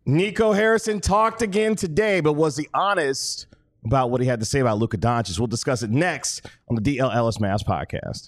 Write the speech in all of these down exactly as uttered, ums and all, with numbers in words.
Nico Harrison talked again today, but was he honest about what he had to say about Luka Doncic? We'll discuss it next on the D L Ellis Mavs podcast.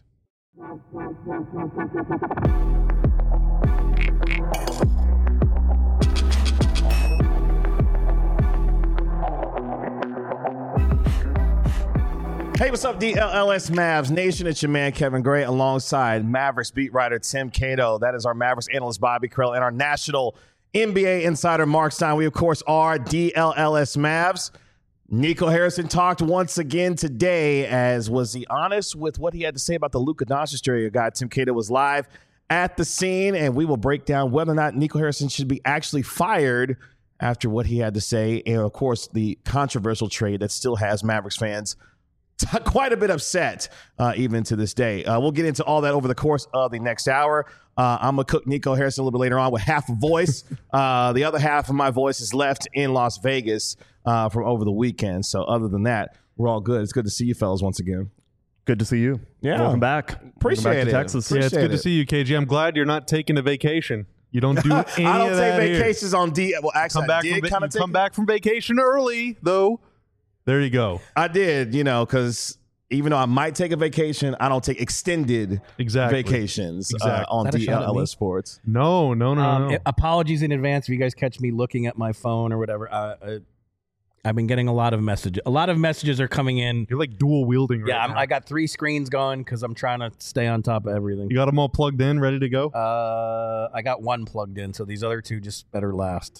Hey, what's up, D L L S Mavs Nation? It's your man, Kevin Gray, alongside Mavericks beat writer Tim Cato. That is our Mavericks analyst, Bobby Krell, and our national N B A insider, Mark Stein. We, of course, are D L L S Mavs. Nico Harrison talked once again today, as was he honest with what he had to say about the Luka Doncic trade? Your guy, Tim Cato, was live at the scene, and we will break down whether or not Nico Harrison should be actually fired after what he had to say, and, of course, the controversial trade that still has Mavericks fans quite a bit upset, uh, even to this day. Uh, we'll get into all that over the course of the next hour. Uh, I'm going to cook Nico Harrison a little bit later on with half a voice. Uh, the other half of my voice is left in Las Vegas uh, from over the weekend. So other than that, we're all good. It's good to see you fellas once again. Good to see you. Yeah. Welcome back. Appreciate Welcome back it. to Texas. Appreciate yeah, it's good it. to see you, K G. I'm glad you're not taking a vacation. You don't do any I don't of take that here. vacations on D. Well, actually, Come back I did from, kind you of take come back from vacation early, though. There you go. I did, you know, because even though I might take a vacation, I don't take extended Exactly. vacations Exactly. uh, on Is that a D shot at L me? S Sports. No, no, no, Um, no. apologies in advance if you guys catch me looking at my phone or whatever. Uh, uh, I've been getting a lot of messages. A lot of messages are coming in. You're like dual wielding right Yeah, I'm, now. I got three screens going because I'm trying to stay on top of everything. You got them all plugged in, ready to go? Uh, I got one plugged in, so these other two just better last.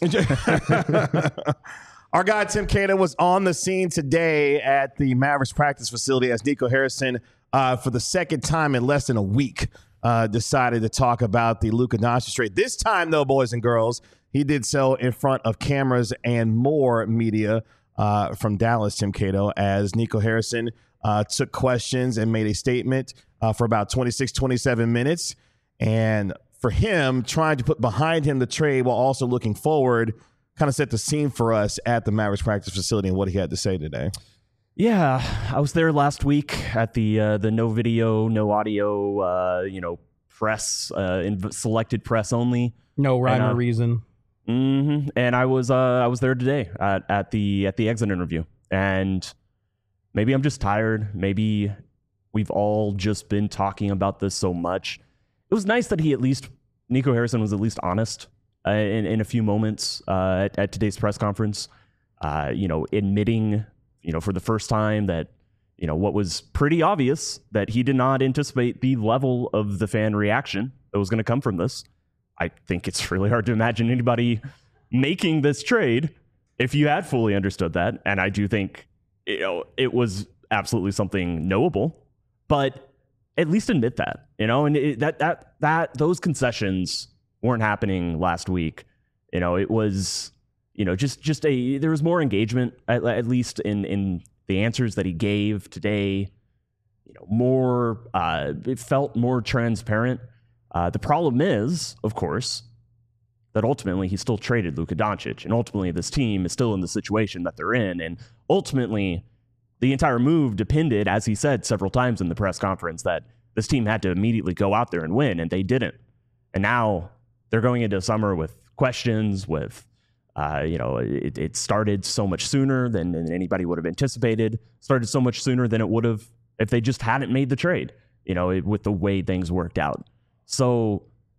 Our guy Tim Cato was on the scene today at the Mavericks practice facility as Nico Harrison, uh, for the second time in less than a week, uh, decided to talk about the Luka Doncic trade. This time, though, boys and girls, he did so in front of cameras and more media uh, from Dallas, Tim Cato, as Nico Harrison uh, took questions and made a statement uh, for about twenty-six, twenty-seven minutes. And for him, trying to put behind him the trade while also looking forward kind of set the scene for us at the Mavericks practice facility and what he had to say today. Yeah, I was there last week at the uh, the no video, no audio, uh, you know, press, uh, in selected press only. No rhyme And, uh, or reason. Mm-hmm. And I was uh, I was there today at, at the at the exit interview. And maybe I'm just tired. Maybe we've all just been talking about this so much. It was nice that he at least Nico Harrison was at least honest uh, in in a few moments uh, at, at today's press conference. Uh, you know, admitting, you know, for the first time that, you know, what was pretty obvious, that he did not anticipate the level of the fan reaction that was going to come from this. I think it's really hard to imagine anybody making this trade if you had fully understood that. And I do think, you know, it was absolutely something knowable, but at least admit that, you know, and it, that, that, that, those concessions weren't happening last week. You know, it was, you know, just, just a, there was more engagement, at, at least in, in the answers that he gave today, you know, more, uh, it felt more transparent. Uh, the problem is, of course, that ultimately he still traded Luka Doncic, and ultimately this team is still in the situation that they're in, and ultimately the entire move depended, as he said several times in the press conference, that this team had to immediately go out there and win, and they didn't. And now they're going into summer with questions, with, uh, you know, it, it started so much sooner than, than anybody would have anticipated, started so much sooner than it would have if they just hadn't made the trade, you know, it, with the way things worked out. So,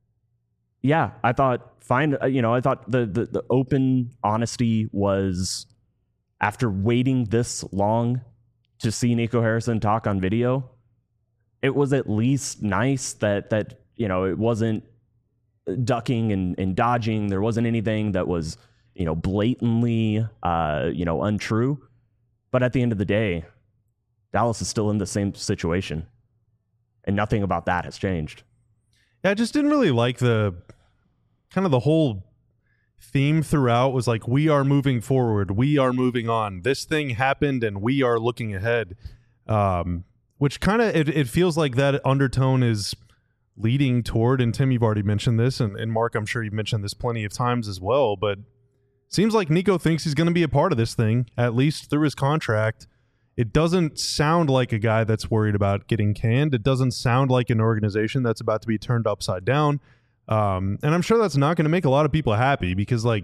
yeah, I thought, fine, you know, I thought the, the, the open honesty was, after waiting this long to see Nico Harrison talk on video, it was at least nice that, that you know, it wasn't ducking and, and dodging. There wasn't anything that was, you know, blatantly, uh, you know, untrue. But at the end of the day, Dallas is still in the same situation, and nothing about that has changed. Yeah, I just didn't really like the kind of the whole theme throughout was like, we are moving forward, we are moving on, this thing happened and we are looking ahead, um, which kind of it, it feels like that undertone is leading toward, and Tim, you've already mentioned this, and, and Mark, I'm sure you've mentioned this plenty of times as well, but seems like Nico thinks he's going to be a part of this thing, at least through his contract. It doesn't sound like a guy that's worried about getting canned. It doesn't sound like an organization that's about to be turned upside down. Um, and I'm sure that's not going to make a lot of people happy, because, like,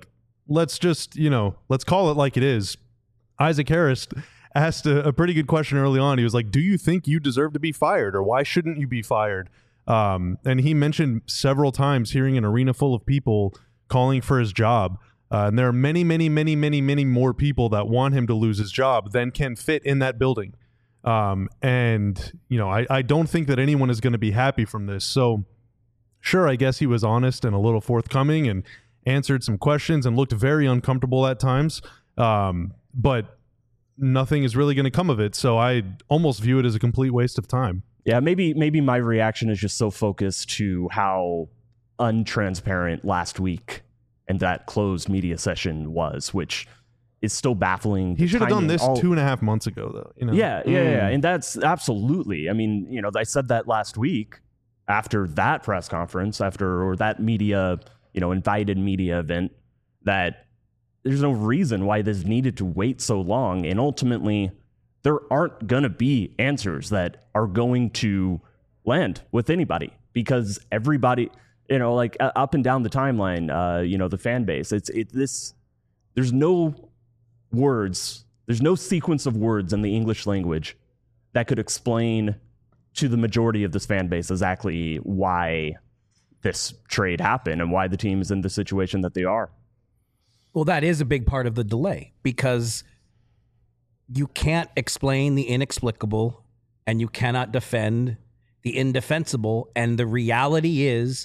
let's just, you know, let's call it like it is. Isaac Harris asked a, a pretty good question early on. He was like, do you think you deserve to be fired, or why shouldn't you be fired? Um, and he mentioned several times hearing an arena full of people calling for his job. Uh, and there are many, many, many, many, many more people that want him to lose his job than can fit in that building. Um, and, you know, I, I don't think that anyone is going to be happy from this. So, sure, I guess he was honest and a little forthcoming and answered some questions and looked very uncomfortable at times. Um, but nothing is really going to come of it. So I almost view it as a complete waste of time. Yeah, maybe maybe my reaction is just so focused to how untransparent last week and that closed media session was, which is still baffling. He should have done this all, two and a half months ago, though. You know? Yeah, yeah, mm. yeah, and that's absolutely. I mean, you know, I said that last week after that press conference, after or that media, you know, invited media event, that there's no reason why this needed to wait so long, and ultimately, there aren't going to be answers that are going to land with anybody, because everybody, you know, like uh, up and down the timeline, uh, you know, the fan base, it's it this, there's no words, there's no sequence of words in the English language that could explain to the majority of this fan base exactly why this trade happened and why the team is in the situation that they are. Well, that is a big part of the delay, because you can't explain the inexplicable and you cannot defend the indefensible. And the reality is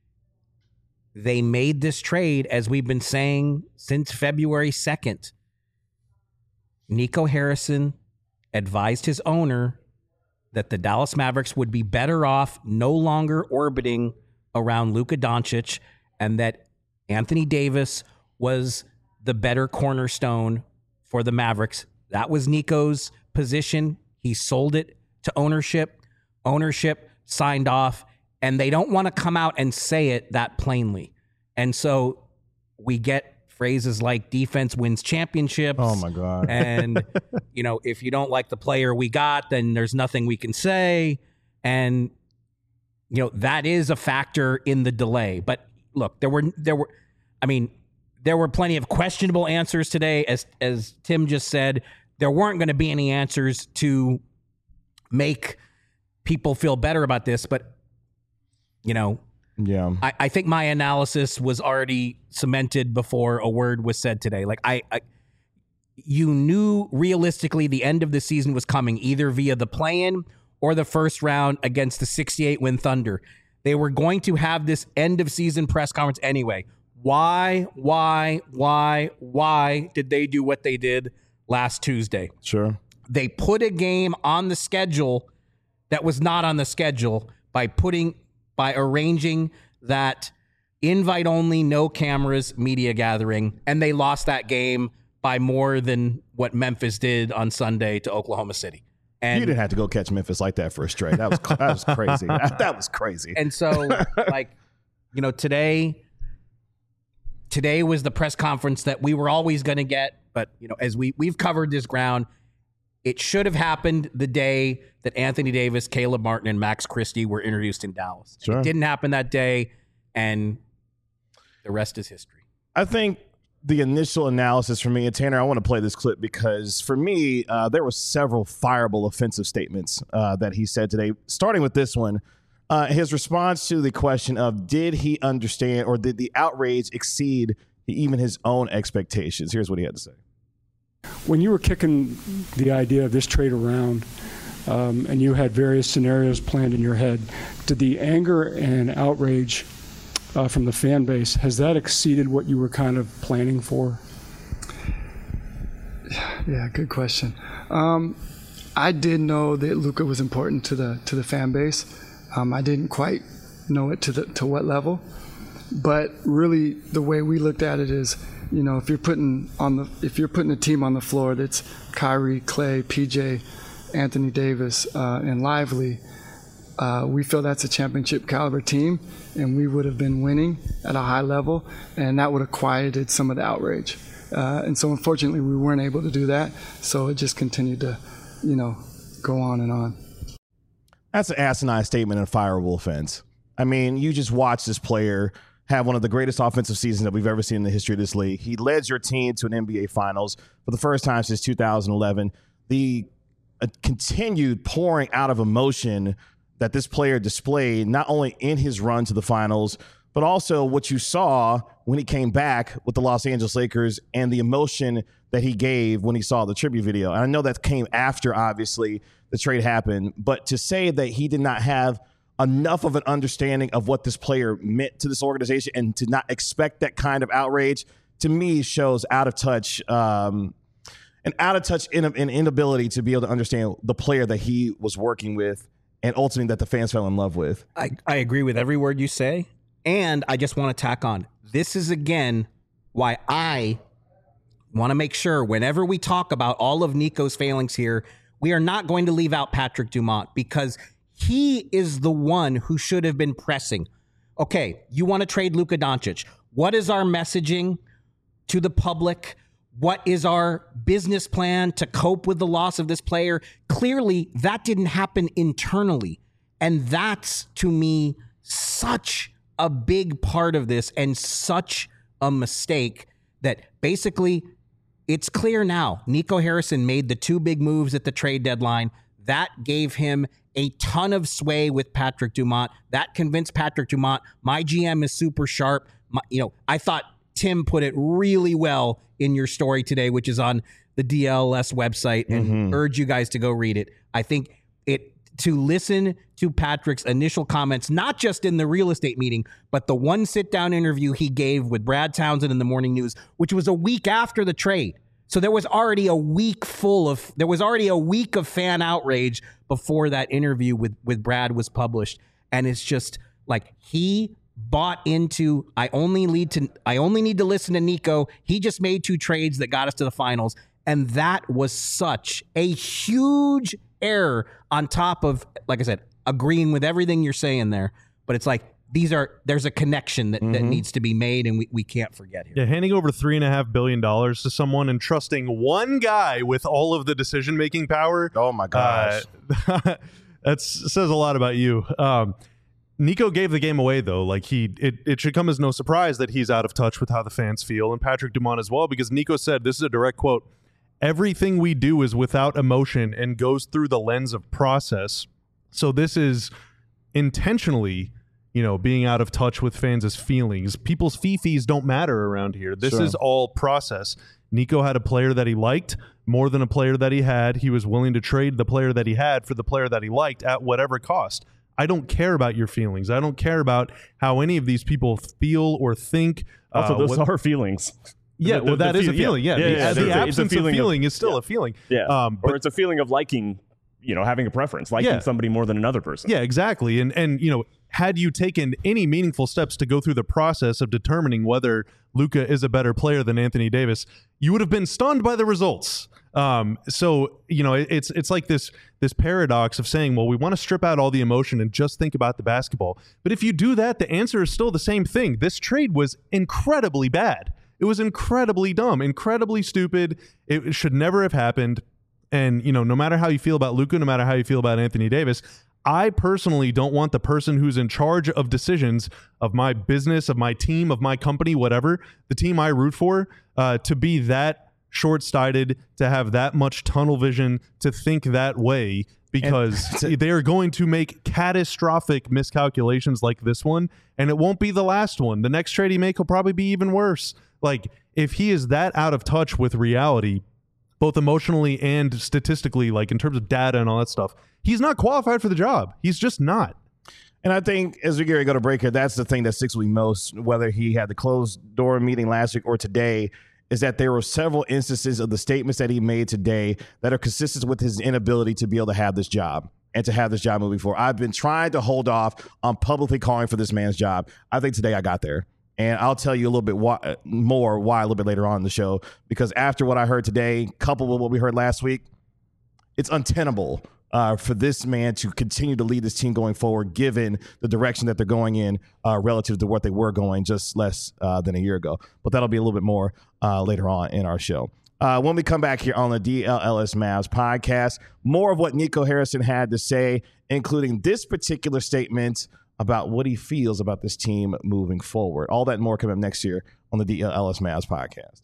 they made this trade, as we've been saying since February second. Nico Harrison advised his owner that the Dallas Mavericks would be better off no longer orbiting around Luka Doncic, and that Anthony Davis was the better cornerstone for the Mavericks. That was Nico's position. He sold it to ownership. Ownership signed off, and they don't want to come out and say it that plainly. And so we get phrases like defense wins championships. Oh, my God. And, you know, if you don't like the player we got, then there's nothing we can say. And, you know, that is a factor in the delay. But look, there were, there were, I mean, there were plenty of questionable answers today. As, as Tim just said, there weren't going to be any answers to make people feel better about this. But, you know, yeah, I, I think my analysis was already cemented before a word was said today. Like I, I, you knew realistically the end of the season was coming, either via the play-in or the first round against the sixty-eight win Thunder. They were going to have this end of season press conference anyway. Why, why, why, why did they do what they did last Tuesday? Sure. They put a game on the schedule that was not on the schedule by putting, by arranging that invite only, no cameras media gathering, and they lost that game by more than what Memphis did on Sunday to Oklahoma City. And you didn't have to go catch Memphis like that for a straight. That was that was crazy. That, that was crazy. And so, like, you know, today, today was the press conference that we were always going to get. But, you know, as we, we've covered this ground, it should have happened the day that Anthony Davis, Caleb Martin, and Max Christie were introduced in Dallas. Sure. It didn't happen that day, and the rest is history. I think the initial analysis for me, and Tanner, I want to play this clip because for me, uh, there were several fireable offensive statements uh, that he said today, starting with this one. Uh, his response to the question of did he understand or did the outrage exceed even his own expectations? Here's what he had to say. When you were kicking the idea of this trade around um, and you had various scenarios planned in your head, did the anger and outrage uh, from the fan base, has that exceeded what you were kind of planning for? Yeah, good question. Um, I did know that Luka was important to the to the fan base. Um, I didn't quite know it to the to what level, but really the way we looked at it is, you know, if you're putting on the if you're putting a team on the floor that's Kyrie, Clay, P J, Anthony Davis, uh, and Lively, uh, we feel that's a championship caliber team, and we would have been winning at a high level, and that would have quieted some of the outrage. Uh, and so, unfortunately, we weren't able to do that. So it just continued to, you know, go on and on. That's an asinine statement and a fireable offense. I mean, you just watch this player have one of the greatest offensive seasons that we've ever seen in the history of this league. He led your team to an N B A Finals for the first time since two thousand eleven. The uh, continued pouring out of emotion that this player displayed, not only in his run to the finals, but also what you saw when he came back with the Los Angeles Lakers and the emotion that he gave when he saw the tribute video. And I know that came after, obviously, the trade happened, but to say that he did not have enough of an understanding of what this player meant to this organization and to not expect that kind of outrage, to me, shows out of touch, um, an out of touch in, an inability to be able to understand the player that he was working with and ultimately that the fans fell in love with. I, I agree with every word you say. And I just want to tack on, this is, again, why I want to make sure whenever we talk about all of Nico's failings here, we are not going to leave out Patrick Dumont, because he is the one who should have been pressing. Okay, you want to trade Luka Doncic. What is our messaging to the public? What is our business plan to cope with the loss of this player? Clearly, that didn't happen internally. And that's, to me, such a big part of this and such a mistake that basically it's clear now. Nico Harrison made the two big moves at the trade deadline. That gave him a ton of sway with Patrick Dumont. That convinced Patrick Dumont, my G M is super sharp. My, you know, I thought Tim put it really well in your story today, which is on the D L S website, and mm-hmm. urge you guys to go read it. I think it to listen to Patrick's initial comments, not just in the real estate meeting, but the one sit-down interview he gave with Brad Townsend in the Morning News, which was a week after the trade. So there was already a week full of, there was already a week of fan outrage before that interview with, with Brad was published. And it's just like, he bought into, I only need to, I only need to listen to Nico. He just made two trades that got us to the finals. And that was such a huge error on top of, like I said, agreeing with everything you're saying there. But it's like, these are, there's a connection that, mm-hmm. that needs to be made, and we, we can't forget here. Yeah, handing over three and a half billion dollars to someone and trusting one guy with all of the decision making power. Oh my gosh, uh, that says a lot about you. Um, Nico gave the game away, though. Like he, it, it should come as no surprise that he's out of touch with how the fans feel, and Patrick Dumont as well, because Nico said, this is a direct quote: "Everything we do is without emotion and goes through the lens of process." So this is intentionally, you know, being out of touch with fans' feelings. People's fee-fees don't matter around here. This sure. is all process. Nico had a player that he liked more than a player that he had. He was willing to trade the player that he had for the player that he liked at whatever cost. I don't care about your feelings. I don't care about how any of these people feel or think. Also, uh, those what, are feelings. Yeah, the, well, the, that the is feel, a feeling, yeah. yeah. yeah, yeah the the absence feeling of feeling of, is still yeah. a feeling. Yeah, um, but, or it's a feeling of liking, you know, having a preference, liking yeah. somebody more than another person. Yeah, exactly. And, and you know, had you taken any meaningful steps to go through the process of determining whether Luka is a better player than Anthony Davis, you would have been stunned by the results. Um, so, you know, it, it's it's like this this paradox of saying, well, we want to strip out all the emotion and just think about the basketball. But if you do that, the answer is still the same thing. This trade was incredibly bad. It was incredibly dumb, incredibly stupid. It should never have happened. And, you know, no matter how you feel about Luka, no matter how you feel about Anthony Davis, I personally don't want the person who's in charge of decisions of my business, of my team, of my company, whatever, the team I root for, uh, to be that short-sighted, to have that much tunnel vision, to think that way, because they are going to make catastrophic miscalculations like this one, and it won't be the last one. The next trade he make will probably be even worse. Like, if he is that out of touch with reality, both emotionally and statistically, like in terms of data and all that stuff, he's not qualified for the job. He's just not. And I think as we get ready to go to break here, that's the thing that sticks with me most, whether he had the closed door meeting last week or today, is that there were several instances of the statements that he made today that are consistent with his inability to be able to have this job and to have this job moving forward. I've been trying to hold off on publicly calling for this man's job. I think today I got there. And I'll tell you a little bit why, more why a little bit later on in the show, because after what I heard today, coupled with what we heard last week, it's untenable uh, for this man to continue to lead this team going forward, given the direction that they're going in uh, relative to what they were going just less uh, than a year ago. But that'll be a little bit more uh, later on in our show. Uh, when we come back here on the D L L S Mavs podcast, more of what Nico Harrison had to say, including this particular statement about what he feels about this team moving forward. All that and more coming up next year on the D L S Mavs podcast.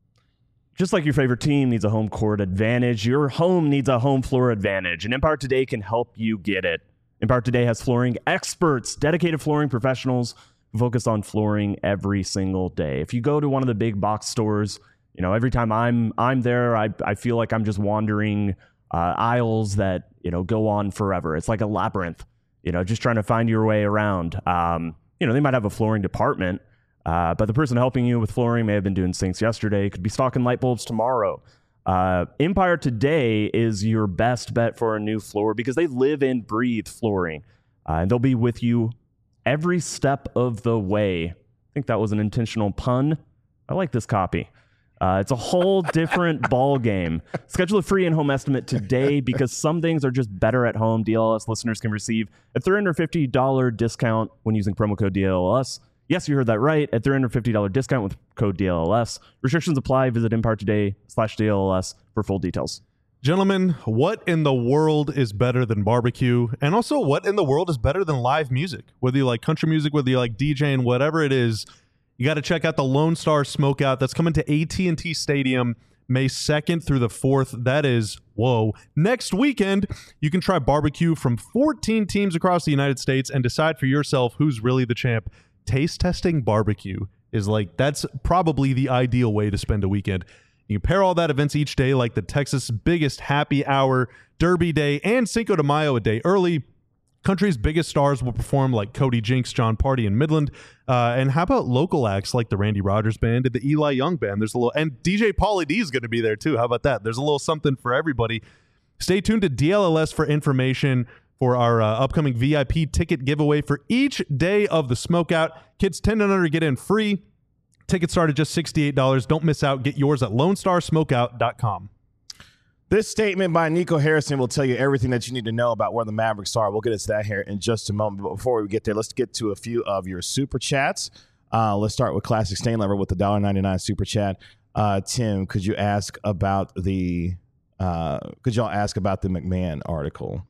Just like your favorite team needs a home court advantage, your home needs a home floor advantage, and Empire Today can help you get it. Empire Today has flooring experts, dedicated flooring professionals who focus on flooring every single day. If you go to one of the big box stores, you know, every time I'm I'm there, I I feel like I'm just wandering uh, aisles that, you know, go on forever. It's like a labyrinth, you know, just trying to find your way around. Um, you know, they might have a flooring department, uh, but the person helping you with flooring may have been doing sinks yesterday, could be stocking light bulbs tomorrow. Uh, Empire Today is your best bet for a new floor because they live and breathe flooring, uh, and they'll be with you every step of the way. I think that was an intentional pun. I like this copy. Uh, it's a whole different ball game. Schedule a free in-home estimate today because some things are just better at home. D L S listeners can receive a three hundred fifty dollars discount when using promo code D L S. Yes, you heard that right. A three hundred fifty dollars discount with code D L S. Restrictions apply. Visit Empire Today slash D L S for full details. Gentlemen, what in the world is better than barbecue? And also, what in the world is better than live music? Whether you like country music, whether you like DJing, whatever it is, you got to check out the Lone Star Smokeout. That's coming to A T and T Stadium May second through the fourth. That is, whoa, next weekend. You can try barbecue from fourteen teams across the United States and decide for yourself who's really the champ. Taste testing barbecue is like, that's probably the ideal way to spend a weekend. You can pair all that events each day, like the Texas biggest happy hour, Derby Day, and Cinco de Mayo a day early. Country's biggest stars will perform like Cody Jinks, John Party, and Midland. Uh, and how about local acts like the Randy Rogers Band and the Eli Young Band? There's a little, and D J Pauly D is going to be there too. How about that? There's a little something for everybody. Stay tuned to D L L S for information for our uh, upcoming V I P ticket giveaway for each day of the Smokeout. Kids ten and under get in free. Tickets start at just sixty-eight dollars. Don't miss out. Get yours at lone star smokeout dot com. This statement by Nico Harrison will tell you everything that you need to know about where the Mavericks are. We'll get into that here in just a moment. But before we get there, let's get to a few of your super chats. Uh, let's start with Classic Stain Lover with the one dollar and ninety-nine cents super chat. Uh, Tim, could you ask about the uh, could y'all ask about the McMahon article?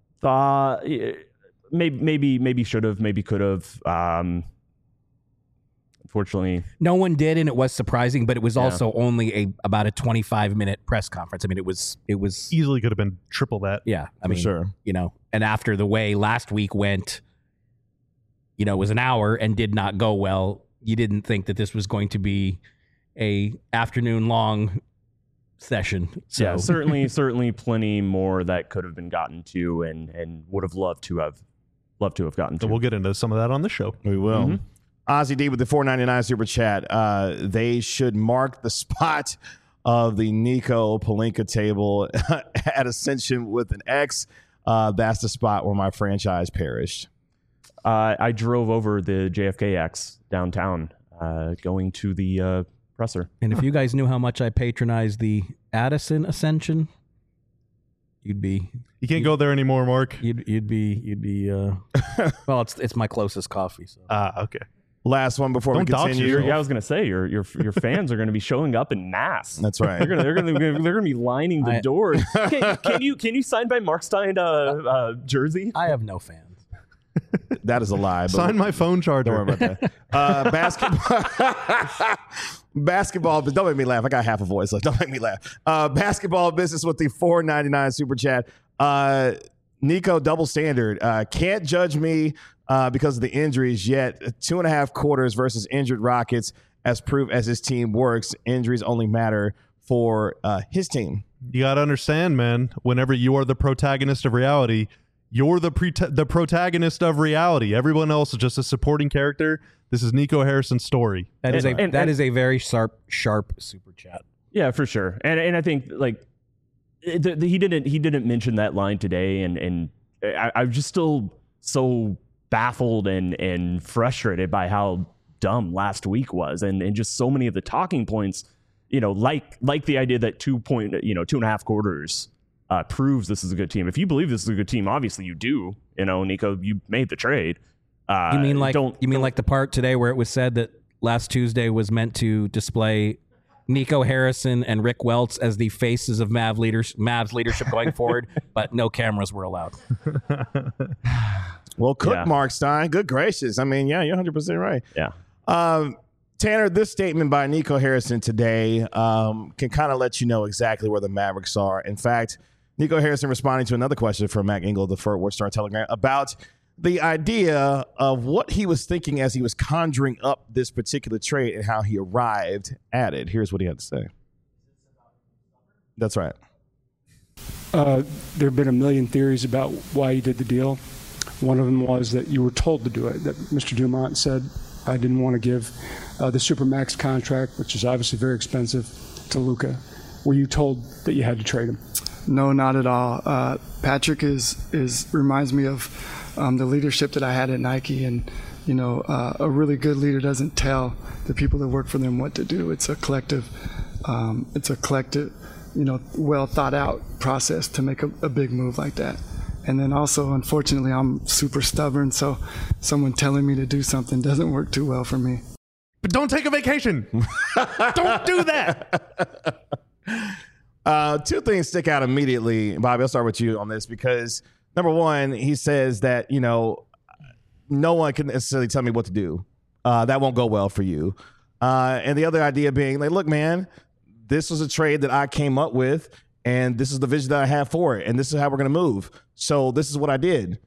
Uh, maybe, maybe, maybe should have, maybe could have. Um, unfortunately, no one did, and it was surprising. But it was Yeah. also only a about a twenty-five minute press conference. I mean, it was it was Easily could have been triple that. yeah. I For mean, sure. you know, and after the way last week went, you know, it was an hour and did not go well. You didn't think that this was going to be a afternoon long session. So yeah, certainly, certainly, plenty more that could have been gotten to, and and would have loved to have, loved to have gotten to. So we'll get into some of that on the show. We will. Mm-hmm. Ozzy D with the four ninety-nine super chat. Uh, they should mark the spot of the Nico Pelinka table at Ascension with an X. Uh, that's the spot where my franchise perished. Uh, I drove over the J F K X downtown, uh, going to the uh, presser. And if you guys knew how much I patronize the Addison Ascension, you'd be You can't go there anymore, Mark. you'd you'd be you'd be uh well, it's it's my closest coffee. So Ah, okay. Last one before Don't we dox continue. yourself. Yeah, I was gonna say your your your fans are gonna be showing up in mass. That's right. They're gonna they're gonna they're gonna be lining the I- doors. Can, can you can you sign by Mark Stein uh, uh, jersey? I have no fans. That is a lie. But Sign my phone charger. Don't worry about that. Uh, basketball, basketball. But don't make me laugh. I got half a voice. Like, don't make me laugh. Uh, basketball business with the four ninety-nine super chat. Uh, Nico, double standard. Uh, can't judge me uh, because of the injuries yet. Two and a half quarters versus injured Rockets as proof as his team works. Injuries only matter for uh, his team. You got to understand, man, whenever you are the protagonist of reality, you're the pre- the protagonist of reality. Everyone else is just a supporting character. This is Nico Harrison's story. That is a And- and- that and- is a very sharp sharp super chat. Yeah, for sure. And and I think like it- the, the, he didn't he didn't mention that line today, and and I, I'm just still so baffled and and frustrated by how dumb last week was, and and just so many of the talking points. You know, like like the idea that two point you know two and a half quarters uh, proves this is a good team. If you believe this is a good team, obviously you do. You know, Nico, you made the trade. Uh, You mean like don't you mean like the part today where it was said that last Tuesday was meant to display Nico Harrison and Rick Welts as the faces of Mav leaders, Mavs leadership going forward, but no cameras were allowed. Well, cook, Yeah. Mark Stein. Good gracious. I mean, yeah, you're one hundred percent right. Yeah. Um, Tanner, this statement by Nico Harrison today um, can kind of let you know exactly where the Mavericks are. In fact, Nico Harrison responding to another question from Mac Engel of the Fort Worth Star Telegram about the idea of what he was thinking as he was conjuring up this particular trade and how he arrived at it. Here's what he had to say. That's right. Uh, there have been a million theories about why you did the deal. One of them was that you were told to do it, that Mister Dumont said, I didn't want to give uh, the Supermax contract, which is obviously very expensive, to Luka. Were you told that you had to trade him? No, not at all. Uh, Patrick is is reminds me of um, the leadership that I had at Nike, and you know, uh, a really good leader doesn't tell the people that work for them what to do. It's a collective, um, it's a collective, you know, well thought out process to make a, a big move like that. And then also, unfortunately, I'm super stubborn, so someone telling me to do something doesn't work too well for me. But don't take a vacation. Don't do that. Uh, two things stick out immediately. Bobby, I'll start with you on this because, number one, he says that, you know, no one can necessarily tell me what to do. Uh, that won't go well for you. Uh, and the other idea being, like, look, man, this was a trade that I came up with, and this is the vision that I have for it, and this is how we're going to move. So this is what I did.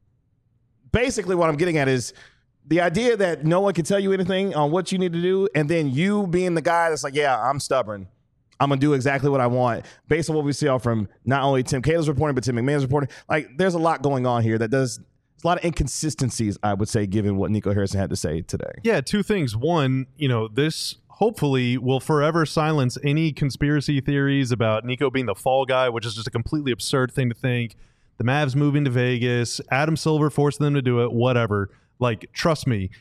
Basically, what I'm getting at is the idea that no one can tell you anything on what you need to do, and then you being the guy that's like, yeah, I'm stubborn. I'm going to do exactly what I want based on what we see all from not only Tim Cato's reporting, but Tim McMahon's reporting. Like, there's a lot going on here that does there's a lot of inconsistencies, I would say, given what Nico Harrison had to say today. Yeah, two things. One, you know, this hopefully will forever silence any conspiracy theories about Nico being the fall guy, which is just a completely absurd thing to think. The Mavs moving to Vegas, Adam Silver forcing them to do it, whatever. Like, trust me,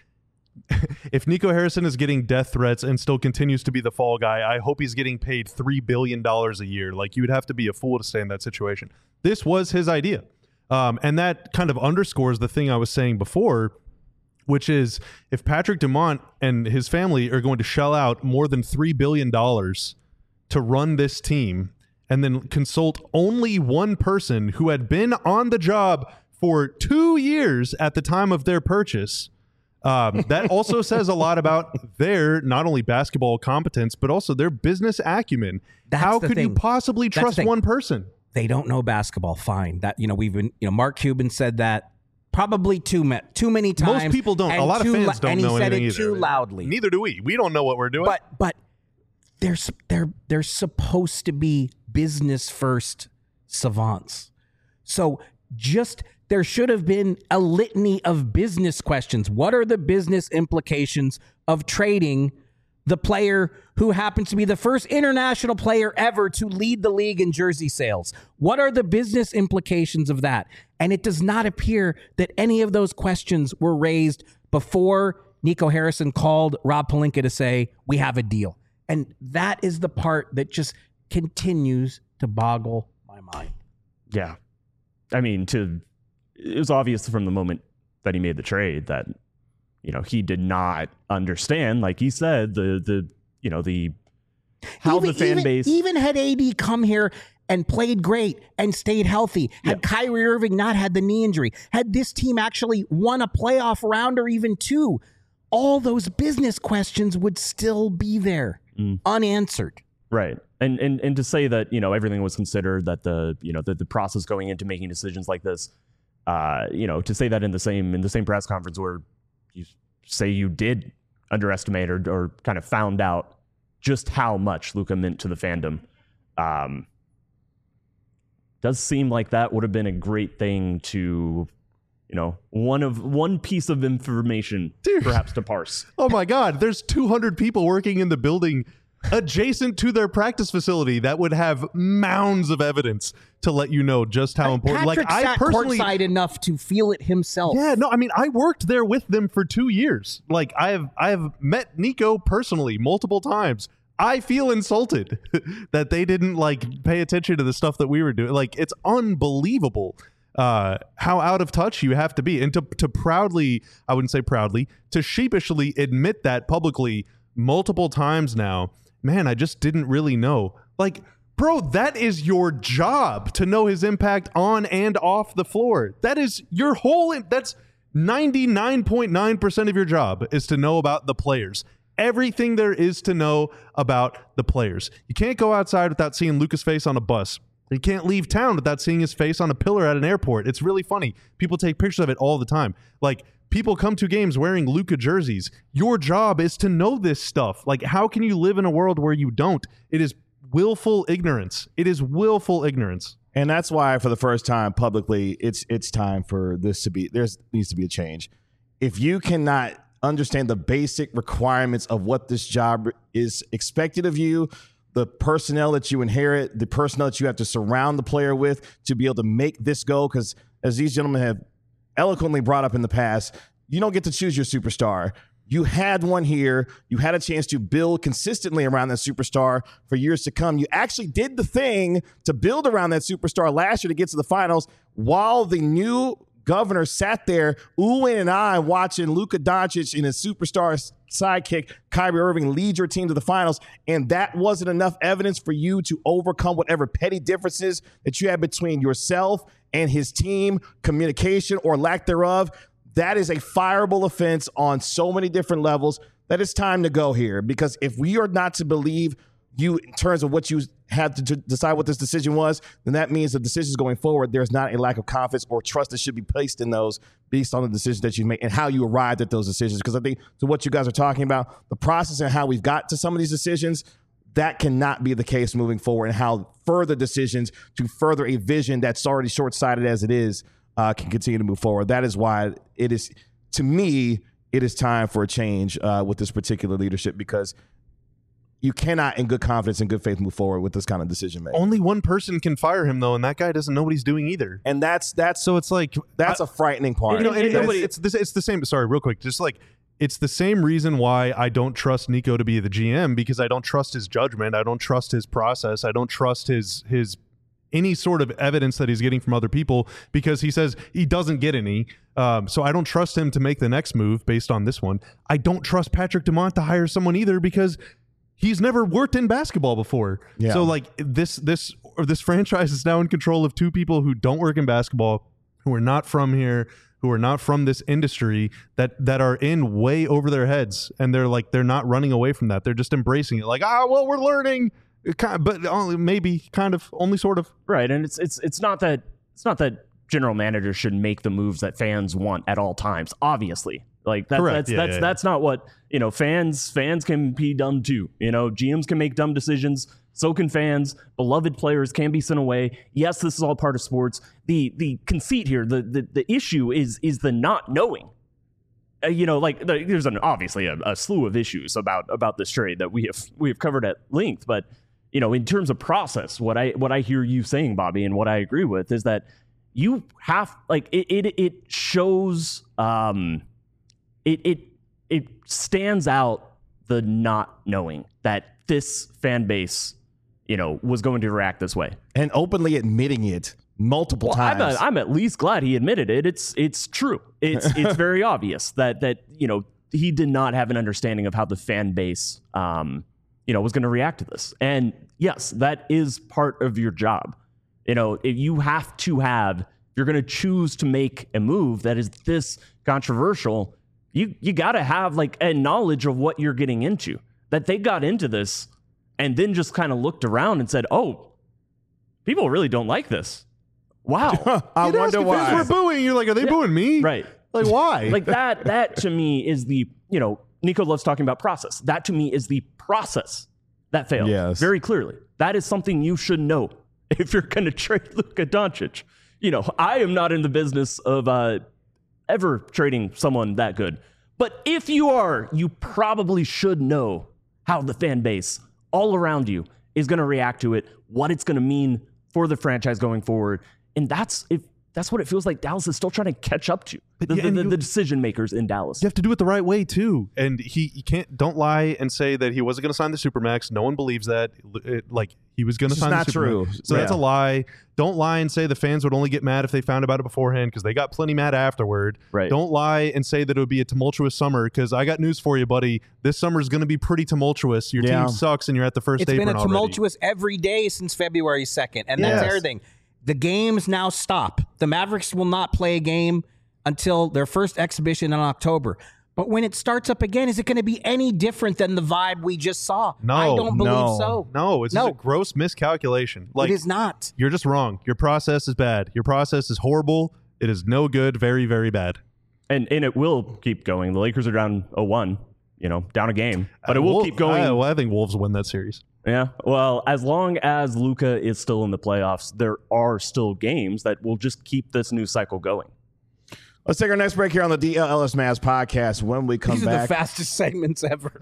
if Nico Harrison is getting death threats and still continues to be the fall guy, I hope he's getting paid three billion dollars a year. Like, you would have to be a fool to stay in that situation. This was his idea. Um, and that kind of underscores the thing I was saying before, which is if Patrick Dumont and his family are going to shell out more than three billion dollars to run this team and then consult only one person who had been on the job for two years at the time of their purchase, um, that also says a lot about their not only basketball competence, but also their business acumen. That's How the could you thing. possibly That's the trust thing. one person? They don't know basketball. Fine. That, you know, we've been, you know, Mark Cuban said that probably too ma- too many times. Most people don't. and A lot of too fans lo- don't and he know said anything it either. too loudly. Neither do we. We don't know what we're doing. But but they're s- they're they're supposed to be business first savants. So just there should have been a litany of business questions. What are the business implications of trading the player who happens to be the first international player ever to lead the league in jersey sales? What are the business implications of that? And it does not appear that any of those questions were raised before Nico Harrison called Rob Pelinka to say, we have a deal. And that is the part that just continues to boggle my mind. Yeah. I mean, to it was obvious from the moment that he made the trade that, you know, he did not understand, like he said, the the you know, the how even, the fan even, base even had A D come here and played great and stayed healthy, had Yeah. Kyrie Irving not had the knee injury, had this team actually won a playoff round or even two, all those business questions would still be there, Mm. unanswered. Right. And, and and to say that, you know, everything was considered, that the, you know, the, the process going into making decisions like this, uh, you know, to say that in the same in the same press conference where you say you did underestimate or, or kind of found out just how much Luka meant to the fandom, um, does seem like that would have been a great thing to, you know, one of one piece of information Dude. perhaps to parse. Oh my God, there's two hundred people working in the building adjacent to their practice facility that would have mounds of evidence to let you know just how important. Patrick like I sat personally, courtside enough to feel it himself. yeah, no, I mean, I worked there with them for two years. Like I have, I have met Nico personally multiple times. I feel insulted that they didn't like pay attention to the stuff that we were doing. Like it's unbelievable uh, how out of touch you have to be, and to to proudly, I wouldn't say proudly, to sheepishly admit that publicly multiple times now. Man, I just didn't really know. Like Bro, that is your job to know his impact on and off the floor. That is your whole, that's ninety-nine point nine percent of your job is to know about the players. Everything there is to know about the players. You can't go outside without seeing Luka's face on a bus. You can't leave town without seeing his face on a pillar at an airport. It's really funny. People take pictures of it all the time. Like, people come to games wearing Luka jerseys. Your job is to know this stuff. Like, how can you live in a world where you don't? It is willful ignorance. It is willful ignorance. And that's why, for the first time publicly, it's it's time for this to be, there's needs to be a change. If you cannot understand the basic requirements of what this job is expected of you, the personnel that you inherit, the personnel that you have to surround the player with to be able to make this go, because as these gentlemen have eloquently brought up in the past, you don't get to choose your superstar. You had one here. You had a chance to build consistently around that superstar for years to come. You actually did the thing to build around that superstar last year to get to the finals, while the new governor sat there oohing and ahhing watching Luka Doncic and his superstar sidekick Kyrie Irving lead your team to the finals. And that wasn't enough evidence for you to overcome whatever petty differences that you had between yourself and his team, communication or lack thereof. That is a fireable offense on so many different levels that it's time to go here. Because if we are not to believe you in terms of what you had to d- decide what this decision was, then that means the decisions going forward, there's not a lack of confidence or trust that should be placed in those based on the decisions that you made and how you arrived at those decisions. Because I think to what you guys are talking about, the process and how we've got to some of these decisions, that cannot be the case moving forward, and how further decisions to further a vision that's already short-sighted as it is uh, can continue to move forward. That is why it is, to me, it is time for a change uh, with this particular leadership, because you cannot, in good confidence and good faith, move forward with this kind of decision making. Only one person can fire him, though, and that guy doesn't know what he's doing either. And that's that's so it's like that's I, a frightening part. You know, and, and nobody, it's, it's, it's the same. Sorry, real quick, just like it's the same reason why I don't trust Nico to be the G M, because I don't trust his judgment, I don't trust his process, I don't trust his his any sort of evidence that he's getting from other people, because he says he doesn't get any. Um, so I don't trust him to make the next move based on this one. I don't trust Patrick Dumont to hire someone either, because he's never worked in basketball before. Yeah. So like this, this, or this franchise is now in control of two people who don't work in basketball, who are not from here, who are not from this industry, that, that are in way over their heads. And they're like, they're not running away from that. They're just embracing it. Like, ah, well, we're learning, but only maybe kind of only sort of. Right. And it's, it's, it's not that, it's not that general managers should make the moves that fans want at all times. Obviously. Like that, that's, Yeah, that's, yeah, that's yeah. not what, you know, fans, fans can be dumb too. You know, G Ms can make dumb decisions. So can fans. Beloved players can be sent away. Yes, this is all part of sports. The, the conceit here, the, the, the issue is, is the not knowing. Uh, you know, like the, there's an obviously a, a slew of issues about, about this trade that we have, we have covered at length, but you know, in terms of process, what I, what I hear you saying, Bobby, and what I agree with is that you have, like, it, it, it shows, um, It, it it stands out the not knowing that this fan base, you know, was going to react this way, and openly admitting it multiple well, times. I'm, a, I'm at least glad he admitted it. It's it's true. It's it's very obvious that that you know he did not have an understanding of how the fan base, um, you know, was going to react to this. And yes, that is part of your job. You know, if you have to have, if you're going to choose to make a move that is this controversial, You you got to have like a knowledge of what you're getting into. That they got into this and then just kind of looked around and said, "Oh, people really don't like this." Wow. I You'd ask wonder if why. fans were booing. You're like, are they Yeah. booing me? Right. Like, why? Like that that to me is the, you know, Nico loves talking about process. That to me is the process that failed. Yes. Very clearly. That is something you should know if you're going to trade Luka Doncic. You know, I am not in the business of uh ever trading someone that good. But if you are, you probably should know how the fan base all around you is going to react to it, what it's going to mean for the franchise going forward. And that's, if that's what it feels like Dallas is still trying to catch up to. But The, yeah, the, and the, you- the decision makers in Dallas. You have to do it the right way too, and he you can't don't lie and say that he wasn't going to sign the Supermax. No one believes that. It, like he was going to It's sign not the Supermax. true. So that's a Yeah. lie. Don't lie and say the fans would only get mad if they found about it beforehand because they got plenty mad afterward. Right. Don't lie and say that it would be a tumultuous summer because I got news for you, buddy. This summer is going to be pretty tumultuous. Your Yeah. team sucks and you're at the first It's apron been a already. tumultuous every day since February second, and that's Yes. everything. The games now stop. The Mavericks will not play a game until their first exhibition in October. But when it starts up again, is it going to be any different than the vibe we just saw? No, I don't believe no, so. No, it's No. just a gross miscalculation. Like it is not. you're just wrong. Your process is bad. Your process is horrible. It is no good. Very, very bad. And and it will keep going. The Lakers are down oh one, you know, down a game. But it will Wolf- keep going. I, well, I think Wolves win that series. Yeah. Well, as long as Luka is still in the playoffs, there are still games that will just keep this new cycle going. Let's take our next break here on the D L L S Mavs podcast. When we come These are back, the fastest segments ever.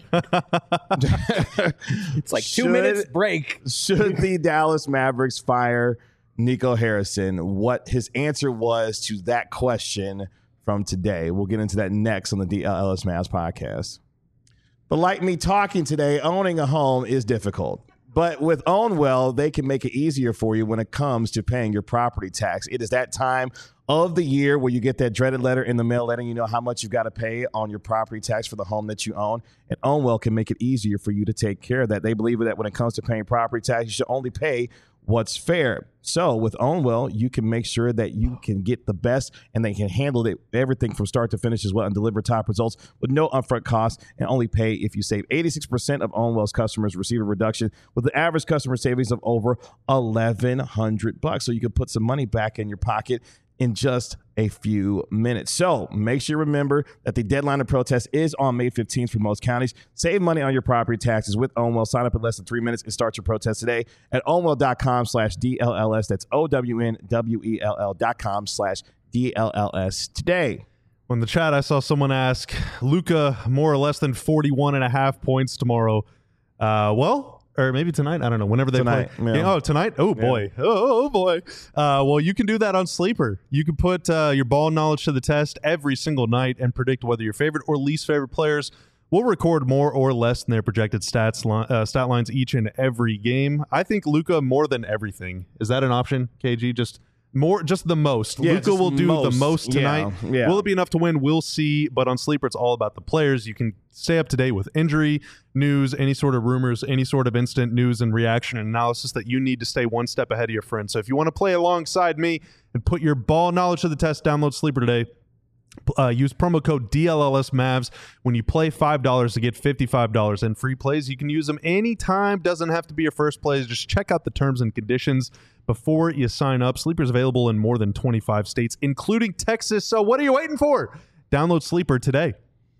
It's like two Should- minutes break. should the Dallas Mavericks fire Nico Harrison? What his answer was to that question from today. We'll get into that next on the D L L S Mavs podcast. But like me talking today, owning a home is difficult. But with OwnWell, they can make it easier for you when it comes to paying your property tax. It is that time of the year where you get that dreaded letter in the mail letting you know how much you've got to pay on your property tax for the home that you own. And OwnWell can make it easier for you to take care of that. They believe that when it comes to paying property tax, you should only pay what's fair. So with OwnWell, you can make sure that you can get the best and they can handle it, everything from start to finish as well and deliver top results with no upfront costs and only pay if you save. eighty-six percent of OwnWell's customers receive a reduction with the average customer savings of over eleven hundred bucks. So you can put some money back in your pocket in just a few minutes. So make sure you remember that the deadline to protest is on May fifteenth for most counties. Save money on your property taxes with OwnWell. Sign up in less than three minutes and start your protest today at ownwell.com slash DLLS. That's O-W-N-W-E-L-L dot com slash D-L-L-S today. On the chat, I saw someone ask, Luka more or less than forty-one and a half points tomorrow. Uh, well, or maybe tonight. I don't know. Whenever they Tonight, play. yeah. Oh, tonight? Oh, boy. Oh, oh, boy. Uh, well, you can do that on Sleeper. You can put uh, your ball knowledge to the test every single night and predict whether your favorite or least favorite players will record more or less than their projected stats li- uh, stat lines each and every game. I think Luka more than everything. Is that an option, K G? Just more, just the most. Yeah, Luka just will do most. the most tonight. Yeah, yeah. Will it be enough to win? We'll see. But on Sleeper, it's all about the players. You can stay up to date with injury news, any sort of rumors, any sort of instant news and reaction and analysis that you need to stay one step ahead of your friends. So if you want to play alongside me and put your ball knowledge to the test, download Sleeper today. Uh, use promo code D L L S Mavs. When you play five dollars to get fifty-five dollars in free plays, you can use them anytime. Doesn't have to be your first plays. Just check out the terms and conditions before you sign up. Sleeper's available in more than twenty-five states, including Texas. So what are you waiting for? Download Sleeper today.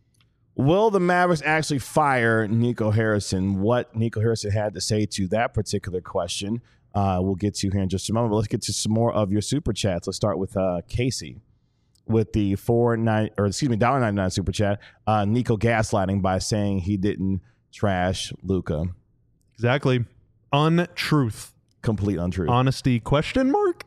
Will the Mavericks actually fire Nico Harrison? What Nico Harrison had to say to that particular question, uh, we'll get to here in just a moment. But let's get to some more of your super chats. Let's start with uh, Casey with the four nine or excuse me, dollar ninety nine super chat. Uh, Nico gaslighting by saying he didn't trash Luka. Exactly. Untruth. Complete untruth. Honesty question mark?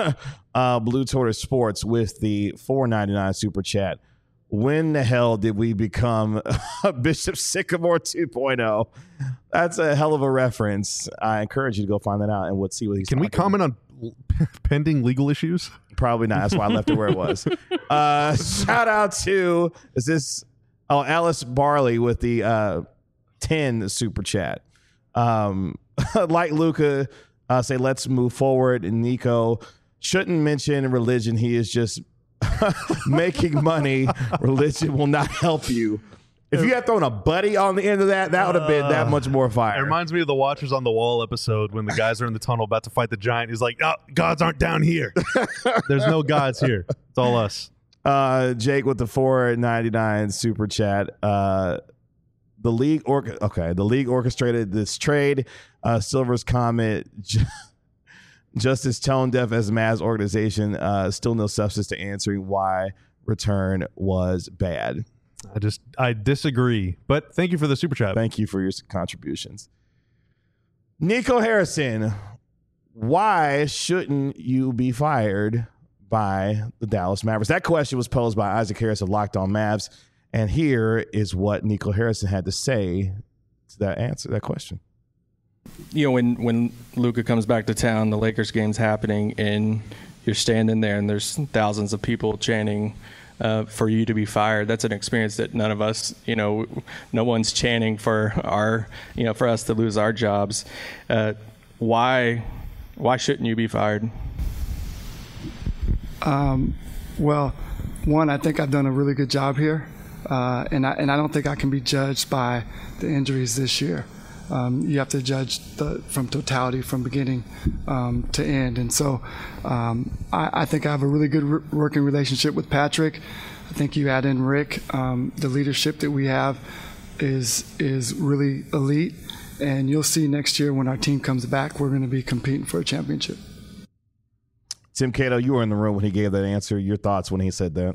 uh, Blue Tortoise Sports with the four ninety nine super chat. When the hell did we become Bishop Sycamore two point oh? That's a hell of a reference. I encourage you to go find that out and we'll see what he's Can we talking comment on pending legal issues? Probably not. That's why I left it where it was. Uh, shout out to, is this, oh, Alice Barley with the uh, ten super chat. Um, like Luka, uh, say, let's move forward. And Nico shouldn't mention religion. He is just making money. Religion will not help you. If you had thrown a buddy on the end of that, that would have been that much more It fire. reminds me of the Watchers on the Wall episode when the guys are in the tunnel about to fight the giant. He's like, oh, gods aren't down here. There's no gods here. It's all us. Uh, Jake with the four ninety-nine super chat. Uh, the league or okay, the league orchestrated this trade. Uh, Silver's comment, just as tone deaf as Mavs organization, uh, still no substance to answering why return was bad. I just, I disagree. But thank you for the super chat. Thank you for your contributions. Nico Harrison, why shouldn't you be fired by the Dallas Mavericks? That question was posed by Isaac Harris of Locked On Mavs. And here is what Nico Harrison had to say to that answer, that question. You know, when, when Luka comes back to town, the Lakers game's happening, and you're standing there and there's thousands of people chanting uh, for you to be fired. That's an experience that none of us, you know, no one's chanting for our, you know, for us to lose our jobs. Uh, why, why shouldn't you be fired? Um, well, one, I think I've done a really good job here, uh, and I and I don't think I can be judged by the injuries this year. Um, you have to judge the, from totality, from beginning um, to end. And so um, I, I think I have a really good re- working relationship with Patrick. I think you add in Rick, um, the leadership that we have is is really elite. And you'll see next year when our team comes back, we're going to be competing for a championship. Tim Cato, you were in the room when he gave that answer. Your thoughts when he said that?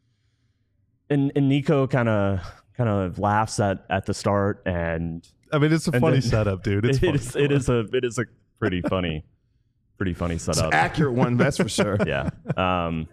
And, and Nico kind of kind of laughs at, at the start, and I mean, it's a funny then, setup, dude. It's it funny. is it is a it is a pretty funny, pretty funny setup. It's an accurate one, that's for sure. Yeah, um,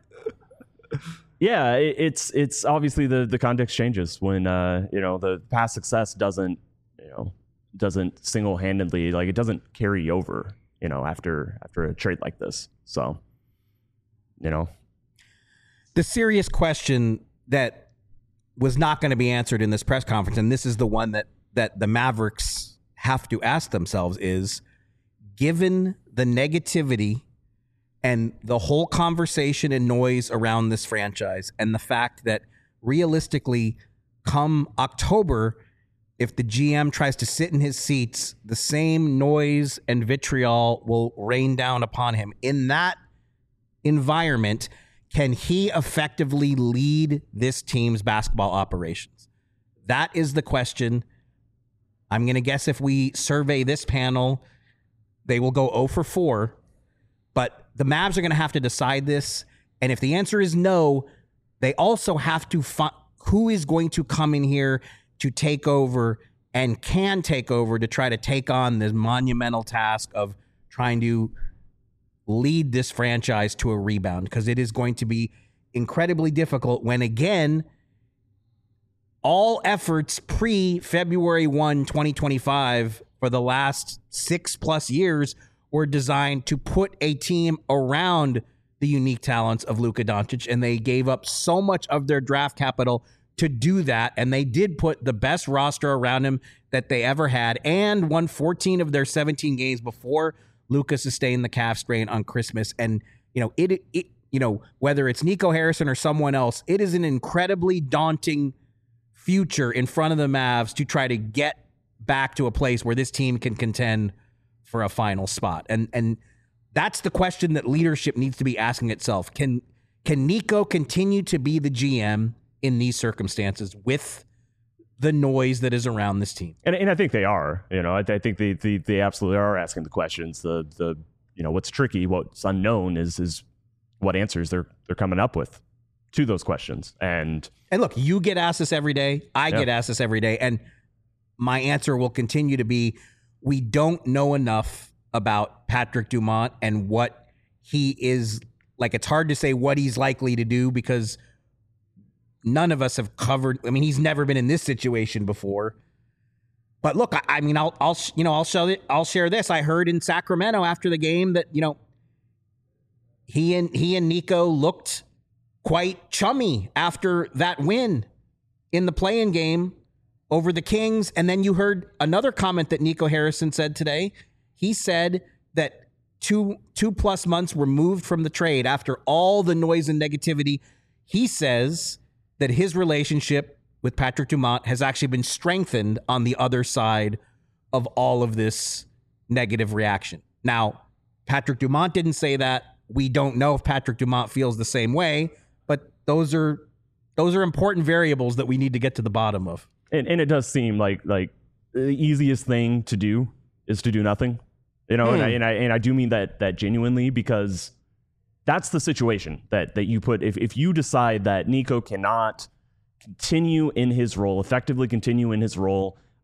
yeah. It, it's it's obviously the the context changes when uh, you know the past success doesn't you know doesn't single handedly like it doesn't carry over you know after after a trade like this. So you know, the serious question that was not going to be answered in this press conference, and this is the one that that the Mavericks have to ask themselves is, given the negativity and the whole conversation and noise around this franchise and the fact that realistically come October, if the G M tries to sit in his seats, the same noise and vitriol will rain down upon him. In that environment, can he effectively lead this team's basketball operations? That is the question. I'm going to guess if we survey this panel, they will go zero for four. But the Mavs are going to have to decide this. And if the answer is no, they also have to find who is going to come in here to take over and can take over to try to take on this monumental task of trying to lead this franchise to a rebound, because it is going to be incredibly difficult when, again, all efforts pre-February first, twenty twenty-five for the last six plus years were designed to put a team around the unique talents of Luka Doncic, and they gave up so much of their draft capital to do that, and they did put the best roster around him that they ever had and won fourteen of their seventeen games before Luka sustained the calf strain on Christmas. And, you know, it, it, you know, whether it's Nico Harrison or someone else, it is an incredibly daunting future in front of the Mavs to try to get back to a place where this team can contend for a final spot. And, and that's the question that leadership needs to be asking itself. Can, can Nico continue to be the G M in these circumstances with the noise that is around this team? And, and I think they are, you know, I, I think they, they, they absolutely are asking the questions. The, the, you know, what's tricky, what's unknown is, is what answers they're, they're coming up with to those questions. And, and look, you get asked this every day. I yeah. get asked this every day. And my answer will continue to be, we don't know enough about Patrick Dumont and what he is like. It's hard to say what he's likely to do because none of us have covered. I mean, he's never been in this situation before. But look, I, I mean, I'll, I'll, you know, I'll show it. I'll share this. I heard in Sacramento after the game that, you know, he and he and Nico looked quite chummy after that win in the play-in game over the Kings. And then you heard another comment that Nico Harrison said today. He said that two two plus months removed from the trade after all the noise and negativity, he says that his relationship with Patrick Dumont has actually been strengthened on the other side of all of this negative reaction. Now, Patrick Dumont didn't say that. We don't know if Patrick Dumont feels the same way, but those are those are important variables that we need to get to the bottom of. And, and it does seem like like the easiest thing to do is to do nothing, you know. Mm. And I and I and I do mean that that genuinely, because that's the situation that that you put. If if you decide that Nico cannot continue in his role, effectively continue in his role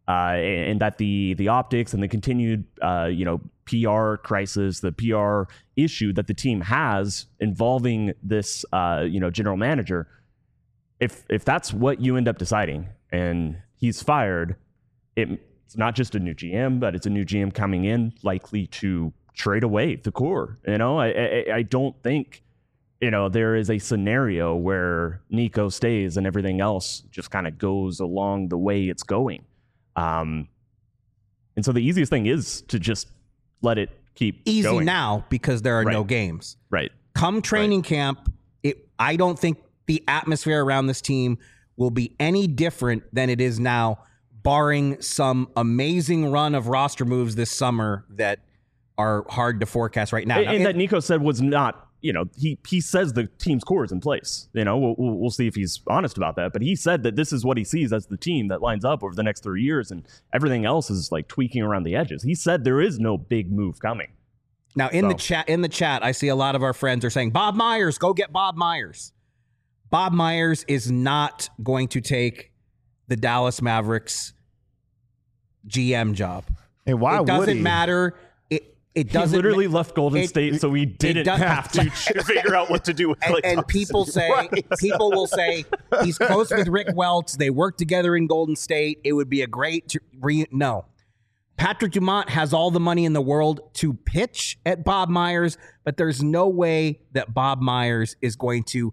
uh, and that the the optics and the continued uh, you know P R crisis, the P R issue that the team has involving this uh, you know general manager, if if that's what you end up deciding and he's fired, it, it's not just a new G M, but it's a new G M coming in likely to trade away the core. You know, I I, I don't think. You know, there is a scenario where Nico stays and everything else just kind of goes along the way it's going. Um, and so the easiest thing is to just let it keep Easy going. now because there are Right. no games. Right. Come training camp, it, I don't think the atmosphere around this team will be any different than it is now, barring some amazing run of roster moves this summer that are hard to forecast right now. And, Now, and it- that Nico said was not, you know, he he says the team's core is in place. You know, we'll, we'll we'll see if he's honest about that. But he said that this is what he sees as the team that lines up over the next three years, and everything else is like tweaking around the edges. He said there is no big move coming. Now in So. the chat, in the chat, I see a lot of our friends are saying, Bob Myers, go get Bob Myers. Bob Myers is not going to take the Dallas Mavericks G M job. Hey, why it would doesn't he? matter. It it He doesn't literally ma- left Golden it- State, so he didn't does- have to figure out what to do with and, Klay and Thompson. people say Right. people will say he's close with Rick Welts. They work together in Golden State. It would be a great tr- re- no. Patrick Dumont has all the money in the world to pitch at Bob Myers, but there's no way that Bob Myers is going to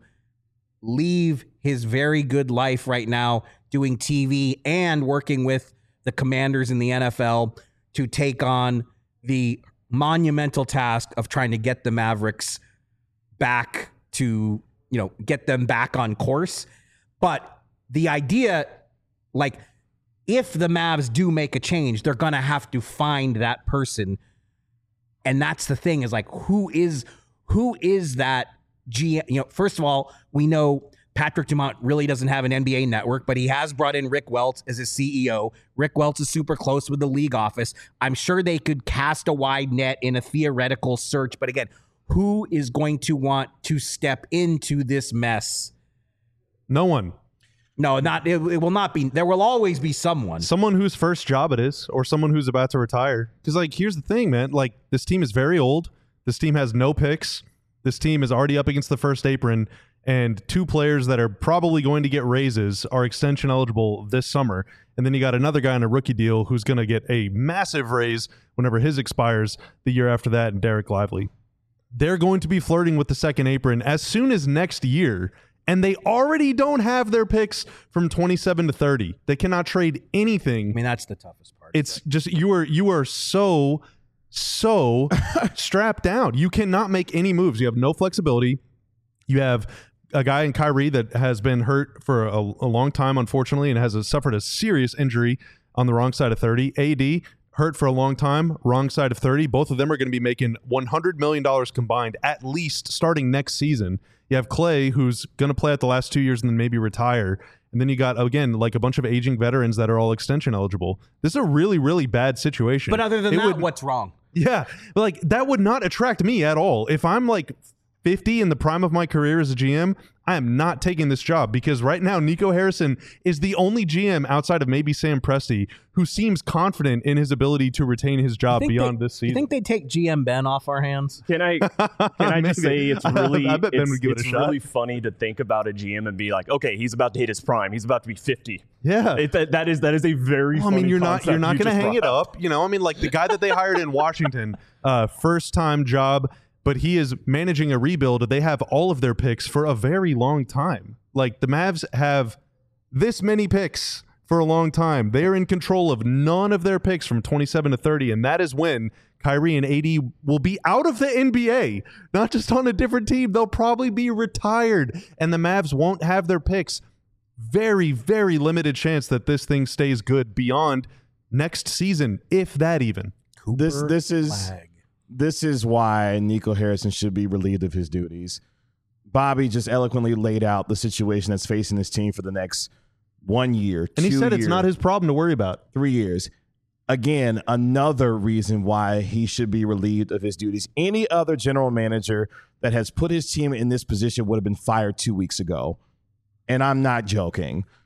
leave his very good life right now doing T V and working with the Commanders in the N F L to take on the monumental task of trying to get the Mavericks back to, you know, get them back on course. But the idea, like, if the Mavs do make a change, they're going to have to find that person. And that's the thing, is like, who is, who is that G M? You know, first of all, we know Patrick Dumont really doesn't have an N B A network, but he has brought in Rick Welts as his C E O. Rick Welts is super close with the league office. I'm sure they could cast a wide net in a theoretical search. But again, who is going to want to step into this mess? No one. No, not it, it will not be. There will always be someone. Someone whose first job it is, or someone who's about to retire. Because, like, here's the thing, man. Like, this team is very old. This team has no picks. This team is already up against the first apron. And two players that are probably going to get raises are extension eligible this summer. And then you got another guy on a rookie deal who's going to get a massive raise whenever his expires the year after that, and Derek Lively. They're going to be flirting with the second apron as soon as next year. And they already don't have their picks from twenty-seven to thirty. They cannot trade anything. I mean, that's the toughest part. It's just you are you are so so strapped down. You cannot make any moves. You have no flexibility. You have a guy in Kyrie that has been hurt for a, a long time, unfortunately, and has a, suffered a serious injury on the wrong side of thirty. A D hurt for a long time, wrong side of thirty. Both of them are going to be making one hundred million dollars combined at least starting next season. You have Klay, who's going to play out the last two years and then maybe retire. And then you got, again, like a bunch of aging veterans that are all extension eligible. This is a really, really bad situation. but other than It that, would- what's wrong? yeah, like that would not attract me at all. If I'm like fifty in the prime of my career as a G M, I am not taking this job, because right now Nico Harrison is the only G M outside of maybe Sam Presti who seems confident in his ability to retain his job Think beyond they, this season. You think they take G M Ben off our hands? Can I can I just Maybe. say it's really I bet Ben it's, would give it a it's shot. really funny to think about a G M and be like, okay, he's about to hit his prime. He's about to be fifty. Yeah. It, that, that is that is a very. Well, I mean, funny you're not concept you're not you going to just hang it brought up, you know. I mean, like the guy that they hired in Washington, uh, first time job, but he is managing a rebuild. They have all of their picks for a very long time. Like the Mavs have this many picks for a long time. They are in control of none of their picks from twenty-seven to thirty, and that is when Kyrie and A D will be out of the N B A, not just on a different team. They'll probably be retired, and the Mavs won't have their picks. Very, very limited chance that this thing stays good beyond next season, if that even. This this is Flag. this is why Nico Harrison should be relieved of his duties. Bobby just eloquently laid out the situation that's facing this team for the next one year, And he two said it's years, not his problem to worry about. three years. Again, another reason why he should be relieved of his duties. Any other general manager that has put his team in this position would have been fired two weeks ago. And I'm not joking.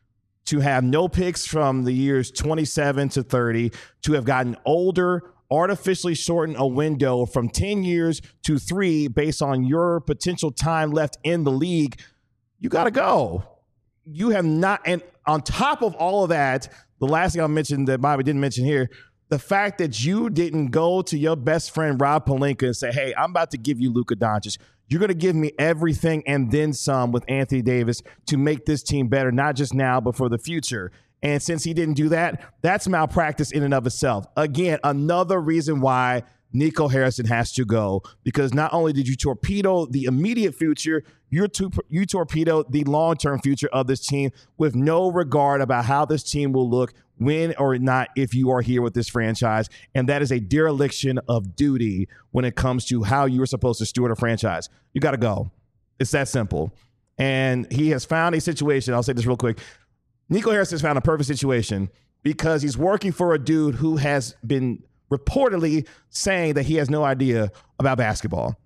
to have no picks from the years twenty-seven to thirty, to have gotten older, artificially shorten a window from ten years to three based on your potential time left in the league, you got to go. You have not, and on top of all of that, the last thing I mentioned that Bobby didn't mention here, the fact that you didn't go to your best friend Rob Pelinka and say, hey, I'm about to give you Luka Doncic. You're going to give me everything and then some with Anthony Davis to make this team better, not just now, but for the future. And since he didn't do that, that's malpractice in and of itself. Again, another reason why Nico Harrison has to go, because not only did you torpedo the immediate future, you're to, you torpedoed the long-term future of this team with no regard about how this team will look, win or not, if you are here with this franchise. And that is a dereliction of duty when it comes to how you are supposed to steward a franchise. You got to go. It's that simple. And he has found a situation. I'll say this real quick. Nico Harrison has found a perfect situation because he's working for a dude who has been reportedly saying that he has no idea about basketball.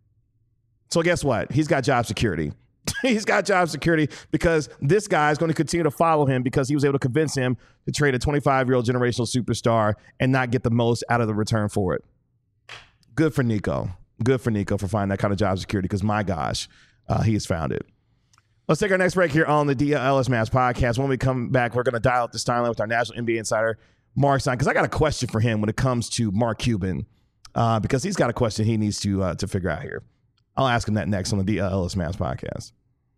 So guess what? He's got job security. He's got job security because this guy is going to continue to follow him because he was able to convince him to trade a twenty-five-year-old generational superstar and not get the most out of the return for it. Good for Nico. Good for Nico for finding that kind of job security because, my gosh, uh, he has found it. Let's take our next break here on the D L Ellis Mavs podcast. When we come back, we're going to dial up this timeline with our national N B A insider, Mark Stein, because I got a question for him when it comes to Mark Cuban, uh, because he's got a question he needs to uh, to figure out here. I'll ask him that next on the D L Ellis Mavs podcast.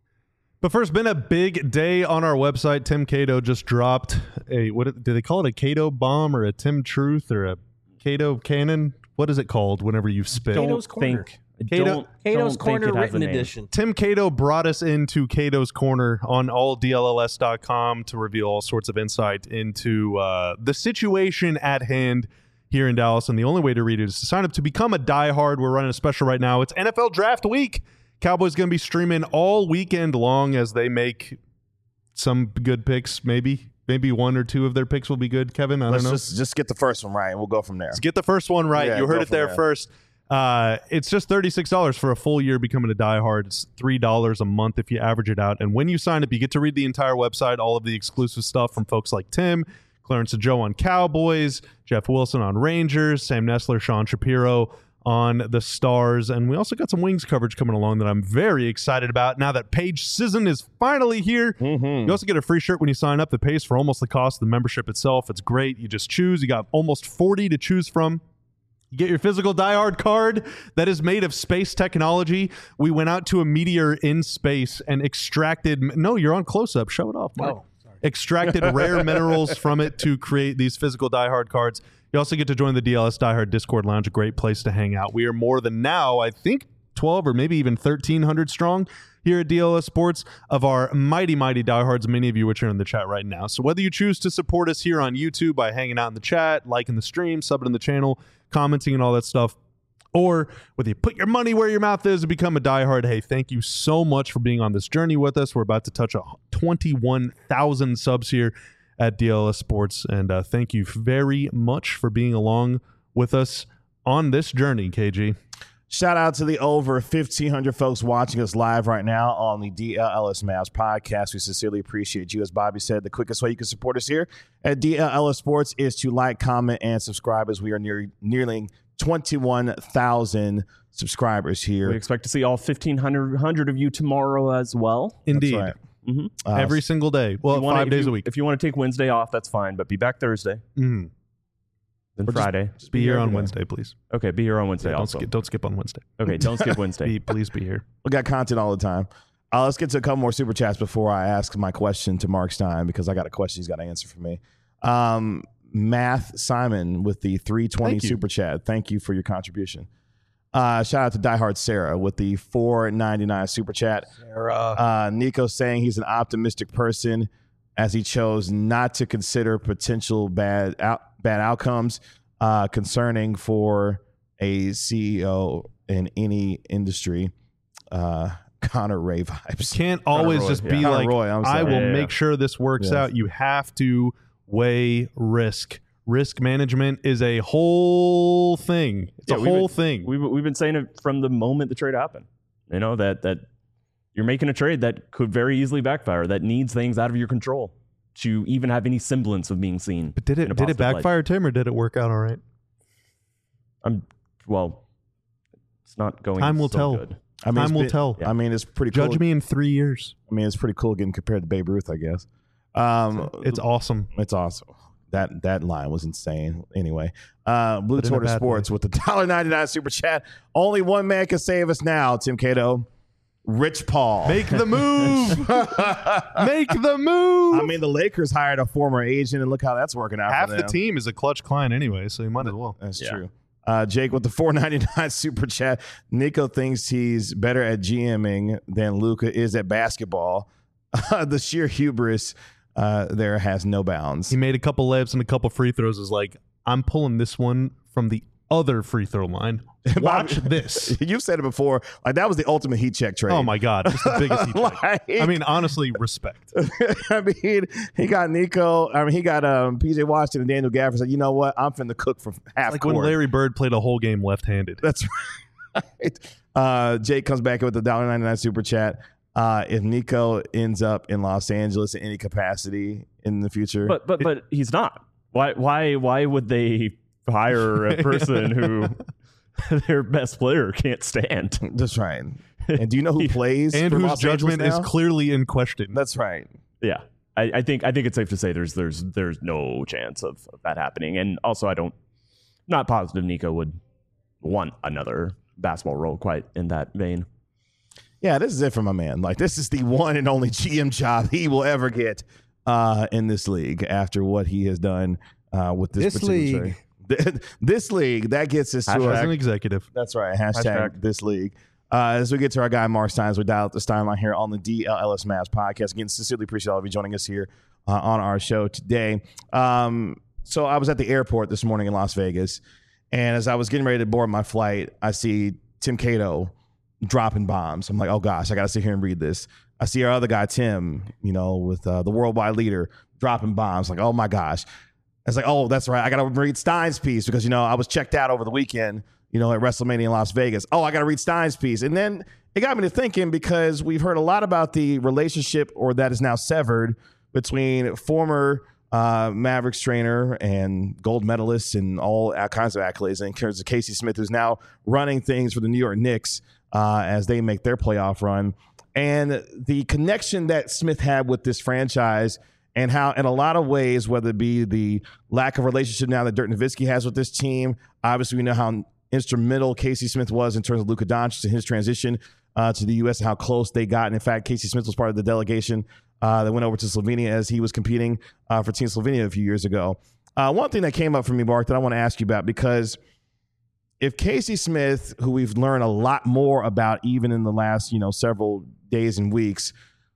But first, been a big day on our website. Tim Cato just dropped a, what did they call it? A Cato bomb or a Tim Truth or a Cato cannon? What is it called whenever you spit? Cato's Corner. Think, Cato- don't, Cato's don't Corner think it has a written name. edition. Tim Cato brought us into Cato's Corner on all D L L S dot com to reveal all sorts of insight into uh, the situation at hand here in Dallas. And the only way to read it is to sign up to become a diehard. We're running a special right now. It's N F L Draft Week. Cowboys going to be streaming all weekend long as they make some good picks. Maybe maybe one or two of their picks will be good, Kevin. I Let's don't know. just, just get the first one right, and we'll go from there. Let's get the first one right. Yeah, you heard go it there from there. first. Uh, it's just thirty-six dollars for a full year becoming a diehard. It's three dollars a month if you average it out. And when you sign up, you get to read the entire website, all of the exclusive stuff from folks like Tim, Clarence and Joe on Cowboys, Jeff Wilson on Rangers, Sam Nessler, Sean Shapiro on the Stars. And we also got some Wings coverage coming along that I'm very excited about now that Paige Sisson is finally here. Mm-hmm. You also get a free shirt when you sign up that pays for almost the cost of the membership itself. It's great. You just choose. You got almost forty to choose from. You get your physical diehard card that is made of space technology. We went out to a meteor in space and extracted. No, you're on close up. Show it off, Mark. Oh, sorry. Extracted rare minerals from it to create these physical diehard cards. You also get to join the D L S Diehard Discord Lounge, a great place to hang out. We are more than now, I think, twelve or maybe even thirteen hundred strong here at D L S Sports of our mighty, mighty diehards, many of you which are in the chat right now. So whether you choose to support us here on YouTube by hanging out in the chat, liking the stream, subbing in the channel, commenting and all that stuff, or whether you put your money where your mouth is and become a diehard, hey, thank you so much for being on this journey with us. We're about to touch a twenty-one thousand subs here at D L S Sports, and uh, thank you very much for being along with us on this journey, K G. Shout out to the over fifteen hundred folks watching us live right now on the D L L S Mavs podcast. We sincerely appreciate you. As Bobby said, the quickest way you can support us here at D L L S Sports is to like, comment, and subscribe as we are near, nearing twenty-one thousand subscribers here. We expect to see all fifteen hundred of you tomorrow as well. Indeed. That's right. Mm-hmm. Uh, Every single day. Well, You wanna- five if days you- a week. If you want to take Wednesday off, that's fine, but be back Thursday, Mhm. then Or just- Friday. just Be here on everywhere. Wednesday, please. Okay, be here on Wednesday Yeah, don't, also. skip, don't skip on Wednesday. Okay, don't skip Wednesday. Be, please be here. We got content all the time. Uh, let's get to a couple more super chats before I ask my question to Mark Stein, because I got a question he's got to answer for me. Um, Math Simon with the three twenty Thank you. super chat. Thank you for your contribution. Uh, shout out to Diehard Sarah with the four ninety-nine super chat. Sarah. Uh, Nico saying he's an optimistic person as he chose not to consider potential bad out, bad outcomes uh, concerning for a C E O in any industry. Uh, Connor Ray vibes. Can't always Roy, just yeah. be Connor like, Roy, I'm I sorry. will Yeah, yeah, make yeah. sure this works Yes. out. You have to weigh risk. Risk management is a whole thing. It's Yeah, a we've whole been- thing. We've, we've been saying it from the moment the trade happened. You know, that that you're making a trade that could very easily backfire, that needs things out of your control. to even have any semblance of being seen. But did it did it backfire, Tim, or did it work out all right? I'm well. It's not going. Time will so tell. Good. I mean, Time will been, tell. I mean, it's pretty Judge cool. me in three years. I mean, it's pretty cool getting compared to Babe Ruth, I guess. Um, It's awesome. It's awesome. That that line was insane. Anyway, uh, Blue But in a Tortoise bad Sports way. with the one dollar ninety-nine super chat. Only one man can save us now, Tim Cato. Rich Paul. Make the move. Make the move. I mean, the Lakers hired a former agent, and look how that's working out Half for the them. team is a clutch client anyway, so you might as well. That's Yeah. true. Uh, Jake with the four ninety-nine super chat. Nico thinks he's better at GMing than Luka is at basketball. The sheer hubris uh, there has no bounds. He made a couple layups and a couple free throws. Is like, I'm pulling this one from the other free throw line. Watch this. You've said it before. Like that was the ultimate heat check trade. Oh my God, just the biggest heat check. Like- I mean, honestly, respect. I mean, he got Nico. I mean, he got um, P J Washington and Daniel Gafford. Said, you know what? I'm finna cook for half Like court. when Larry Bird played a whole game left-handed. That's right. Uh, Jake comes back with the one dollar ninety-nine super chat. Uh, if Nico ends up in Los Angeles in any capacity in the future, But but but he's not. Why why why would they hire a person who their best player can't stand? that's right. And do you know who plays and for whose Los judgment Angeles is now? clearly in question. That's right. Yeah, I, I think I think it's safe to say there's there's there's no chance of, of that happening. And also, I don't not positive Nico would want another basketball role quite in that vein. Yeah, this is it for my man. Like this is the one and only G M job he will ever get uh, in this league after what he has done uh, with this, This particular league. trade. This league that gets us to As our, an executive. that's right. Hashtag, Hashtag. this league. Uh, as we get to our guy Mark Steins, we dial up the Stein line here on the D L L S Mavs podcast. Again, sincerely appreciate all of you joining us here uh, on our show today. Um, so I was at the airport this morning in Las Vegas, and as I was getting ready to board my flight, I see Tim Cato dropping bombs. I'm like, oh gosh, I got to sit here and read this. I see our other guy Tim, you know, with uh, the worldwide leader dropping bombs. Like, oh my gosh. I was like, oh, that's right. I got to read Stein's piece because, you know, I was checked out over the weekend, you know, at WrestleMania in Las Vegas. Oh, I got to read Stein's piece. And then it got me to thinking because we've heard a lot about the relationship or that is now severed between former uh, Mavericks trainer and gold medalist and all kinds of accolades in terms of Casey Smith, who's now running things for the New York Knicks uh, as they make their playoff run. And the connection that Smith had with this franchise and how in a lot of ways, whether it be the lack of relationship now that Dirk Nowitzki has with this team, obviously we know how instrumental Casey Smith was in terms of Luka Doncic and his transition uh, to the U S and how close they got. And in fact, Casey Smith was part of the delegation uh, that went over to Slovenia as he was competing uh, for Team Slovenia a few years ago. Uh, one thing that came up for me, Mark, that I want to ask you about, because if Casey Smith, who we've learned a lot more about even in the last, you know, several days and weeks,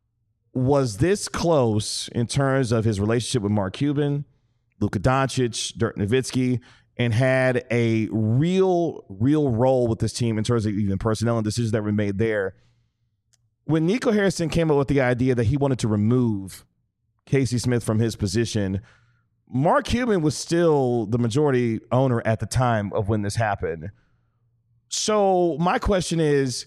was this close in terms of his relationship with Mark Cuban, Luka Doncic, Dirk Nowitzki, and had a real, real role with this team in terms of even personnel and decisions that were made there. When Nico Harrison came up with the idea that he wanted to remove Casey Smith from his position, Mark Cuban was still the majority owner at the time of when this happened. So my question is,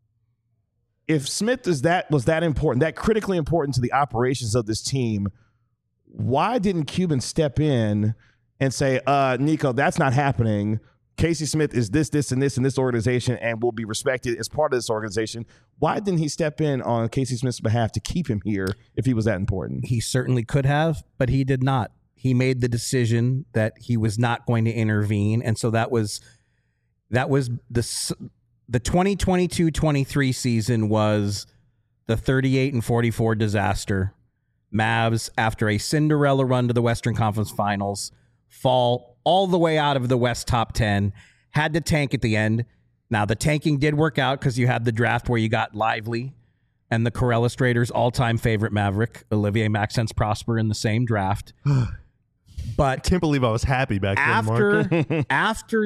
if Smith is that was that important, that critically important to the operations of this team, why didn't Cuban step in and say, uh, Nico, that's not happening. Casey Smith is this, this, and this in this organization and will be respected as part of this organization. Why didn't he step in on Casey Smith's behalf to keep him here if he was that important? He certainly could have, but he did not. He made the decision that he was not going to intervene, and so that was that was the the twenty twenty-two twenty-three season was the thirty-eight and forty-four disaster. Mavs, after a Cinderella run to the Western Conference Finals, fall all the way out of the West top ten, had to tank at the end. Now, the tanking did work out because you had the draft where you got Lively and the Corellis Raiders' all-time favorite Maverick, Olivier Maxence Prosper, in the same draft. But I can't believe I was happy back then, Mark. after after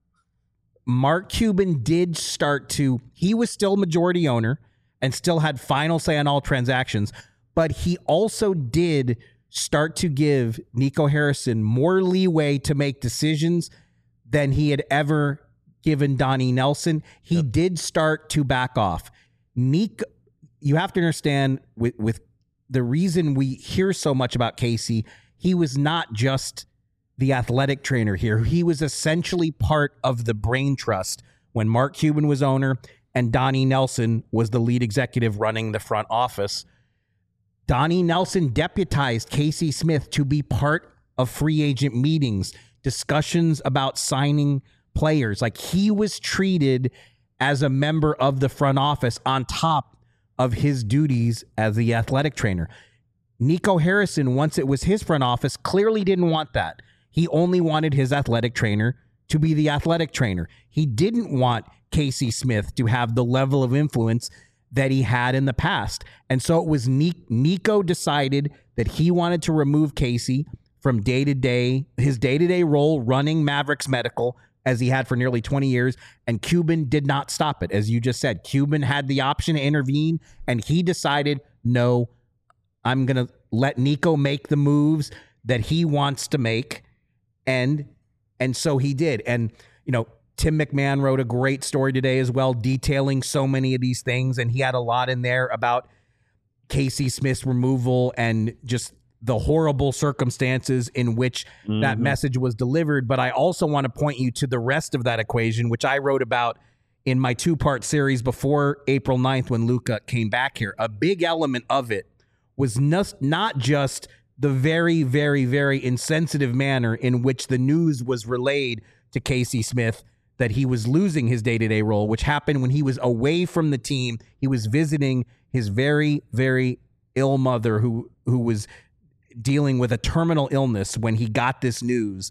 Mark Cuban did start to, he was still majority owner and still had final say on all transactions, but he also did start to give Nico Harrison more leeway to make decisions than he had ever given Donnie Nelson. He yep. did start to back off. Nico, you have to understand with, with the reason we hear so much about Casey, he was not just the athletic trainer here. He was essentially part of the brain trust when Mark Cuban was owner and Donnie Nelson was the lead executive running the front office. Donnie Nelson deputized Casey Smith to be part of free agent meetings, discussions about signing players. Like, he was treated as a member of the front office on top of his duties as the athletic trainer. Nico Harrison, once it was his front office, clearly didn't want that. He only wanted his athletic trainer to be the athletic trainer. He didn't want Casey Smith to have the level of influence that he had in the past. And so it was Nico decided that he wanted to remove Casey from day-to-day, his day-to-day role running Mavericks Medical, as he had for nearly twenty years, and Cuban did not stop it. As you just said, Cuban had the option to intervene, and he decided, no, I'm going to let Nico make the moves that he wants to make, and and so he did. And, you know, Tim McMahon wrote a great story today as well, detailing so many of these things, and he had a lot in there about Casey Smith's removal and just the horrible circumstances in which mm-hmm. that message was delivered. But I also want to point you to the rest of that equation, which I wrote about in my two-part series before April ninth when Luka came back here. A big element of it was not just the very, very, very insensitive manner in which the news was relayed to Casey Smith that he was losing his day-to-day role, which happened when he was away from the team. He was visiting his very, very ill mother who who was dealing with a terminal illness when he got this news.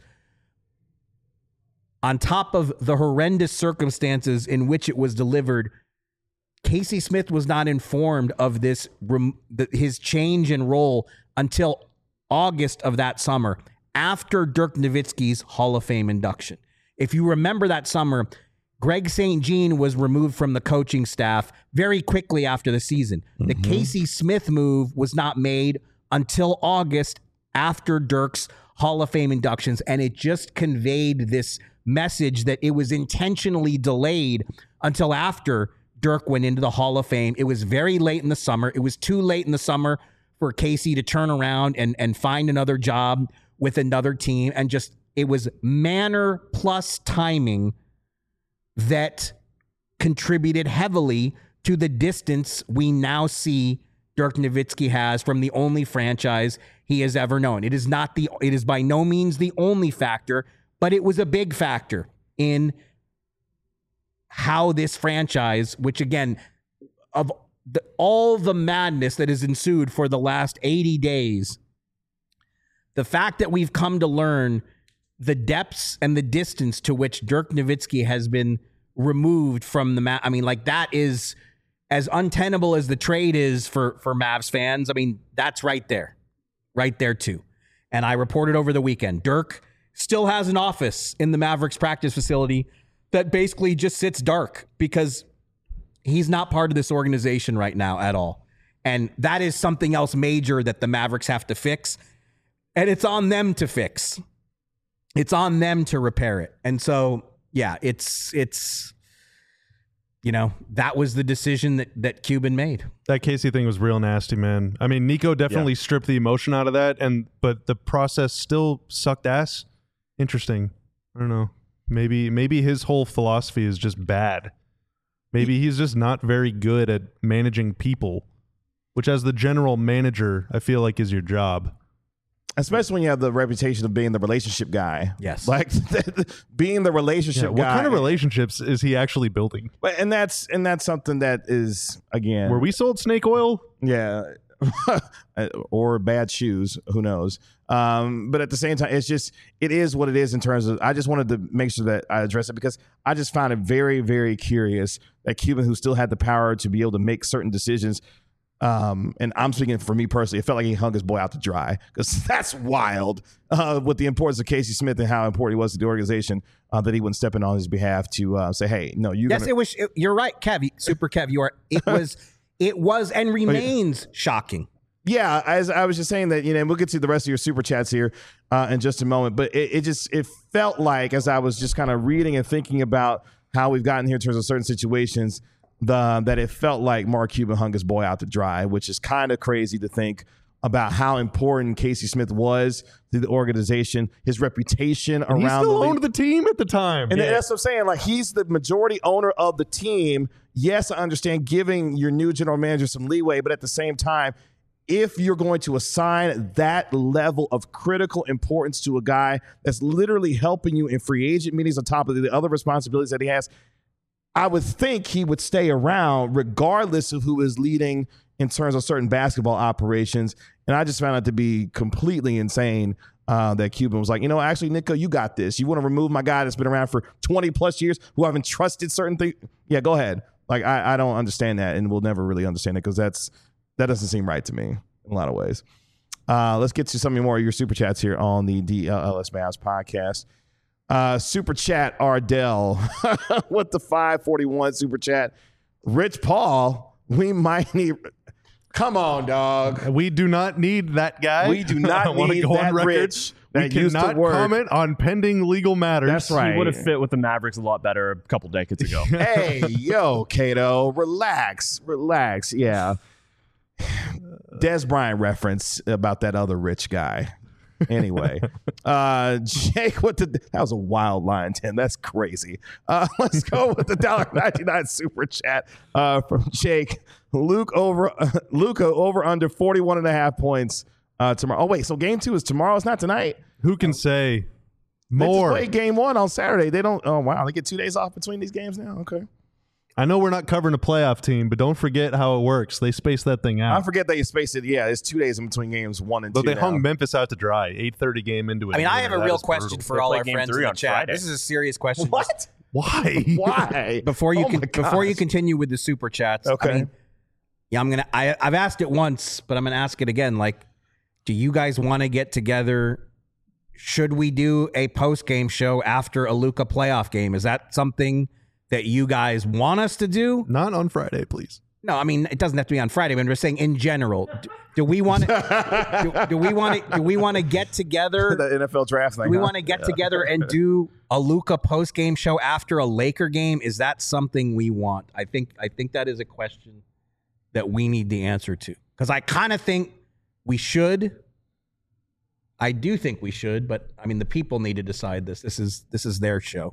On top of the horrendous circumstances in which it was delivered, Casey Smith was not informed of this, his change in role until August of that summer, after Dirk Nowitzki's Hall of Fame induction. If you remember that summer, Greg Saint Jean was removed from the coaching staff very quickly after the season. Mm-hmm. The Casey Smith move was not made until August after Dirk's Hall of Fame inductions, and it just conveyed this message that it was intentionally delayed until after Dirk went into the Hall of Fame. It was very late in the summer. It was too late in the summer for Casey to turn around and, and find another job with another team, and just it was manner plus timing that contributed heavily to the distance we now see Dirk Nowitzki has from the only franchise he has ever known. It is not the, it is by no means the only factor, but it was a big factor in how this franchise, which again, of the, all the madness that has ensued for the last eighty days, the fact that we've come to learn the depths and the distance to which Dirk Nowitzki has been removed from the map. I mean, like, that is as untenable as the trade is for, for Mavs fans. I mean, that's right there, right there too. And I reported over the weekend, Dirk still has an office in the Mavericks practice facility that basically just sits dark because he's not part of this organization right now at all. And that is something else major that the Mavericks have to fix. And it's on them to fix. It's on them to repair it. And so, yeah, it's, it's, you know, that was the decision that, that Cuban made. That Casey thing was real nasty, man. I mean, Nico definitely yeah. stripped the emotion out of that, and but the process still sucked ass. Interesting. I don't know. Maybe maybe his whole philosophy is just bad. Maybe he's just not very good at managing people, which as the general manager, I feel like is your job. Especially when you have the reputation of being the relationship guy. Yes. Like being the relationship yeah, what guy. What kind of relationships is he actually building? But and that's and that's something that is, again, were we sold snake oil? Yeah. Or bad shoes, who knows? Um, but at the same time, it's just, it is what it is in terms of, I just wanted to make sure that I address it because I just found it very, very curious that Cuban, who still had the power to be able to make certain decisions, Um, and I'm speaking for me personally, it felt like he hung his boy out to dry because that's wild uh, with the importance of Casey Smith and how important he was to the organization uh, that he wouldn't step in on his behalf to uh, say, hey, no, you. Yes, gonna- it was. It, you're right, Kev. Super Kev. You are. It was. It was and remains shocking. Yeah, as I was just saying that, you know, and we'll get to the rest of your super chats here uh, in just a moment. But it, it just it felt like as I was just kind of reading and thinking about how we've gotten here in terms of certain situations. the that it felt like Mark Cuban hung his boy out to dry, which is kind of crazy to think about how important Casey Smith was to the organization, his reputation And around he still the league. owned the team at the time. And Yeah. that's what I'm saying. Like, he's the majority owner of the team. Yes, I understand giving your new general manager some leeway, but at the same time, if you're going to assign that level of critical importance to a guy that's literally helping you in free agent meetings on top of the other responsibilities that he has, I would think he would stay around regardless of who is leading in terms of certain basketball operations. And I just found it to be completely insane uh, that Cuban was like, you know, actually, Nico, you got this. You want to remove my guy that's been around for twenty plus years who haven't trusted certain things? Yeah, go ahead. Like, I, I don't understand that, and we'll never really understand it because that's that doesn't seem right to me in a lot of ways. Uh, let's get to some more of your super chats here on the D L L S Mavs podcast. Uh, super chat Ardell with the five forty-one super chat. Rich Paul, we might need. Come on, dog. We do not need that guy. We do not I wanna need go on that record. Rich We that used to cannot work. comment on pending legal matters. That's right. He would have fit with the Mavericks a lot better a couple decades ago. Hey, yo, Cato, relax, relax. Yeah. Des Bryant reference about that other rich guy. Anyway, uh, Jake, what the that was a wild line, Tim. That's crazy. Uh, let's go with the one dollar ninety-nine super chat uh, from Jake. Luke over uh, Luka over under forty-one and a half points uh, tomorrow. Oh wait, so game two is tomorrow. It's not tonight. Who can say They just more? played game one on Saturday. They don't. Oh wow, they get two days off between these games now. Okay. I know we're not covering a playoff team, but don't forget how it works. They space that thing I out. forget that you spaced it. Yeah, it's two days in between games one and But two. they now. hung Memphis out to dry. eight thirty game into it. I mean, I have a real question for They all play our game friends three in the on chat. Friday. This is a serious question. What? Why? Why? Before you Oh can, my before you gosh. continue with the super chats, Okay. I mean, yeah, I'm gonna. I, I've asked it once, but I'm gonna ask it again. Like, do you guys want to get together? Should we do a post game show after a Luka playoff game? Is that something that you guys want us to do? Not on Friday, please. No, I mean it doesn't have to be on Friday. But I'm just saying in general. Do, do we want to? do, do we want to? Do we want to get together? The N F L draft thing. Do we huh? want to get together and do a Luka post game show after a Laker game? Is that something we want? I think I think that is a question that we need the answer to. Because I kind of think we should. I do think we should, but I mean the people need to decide this. This is this is their show.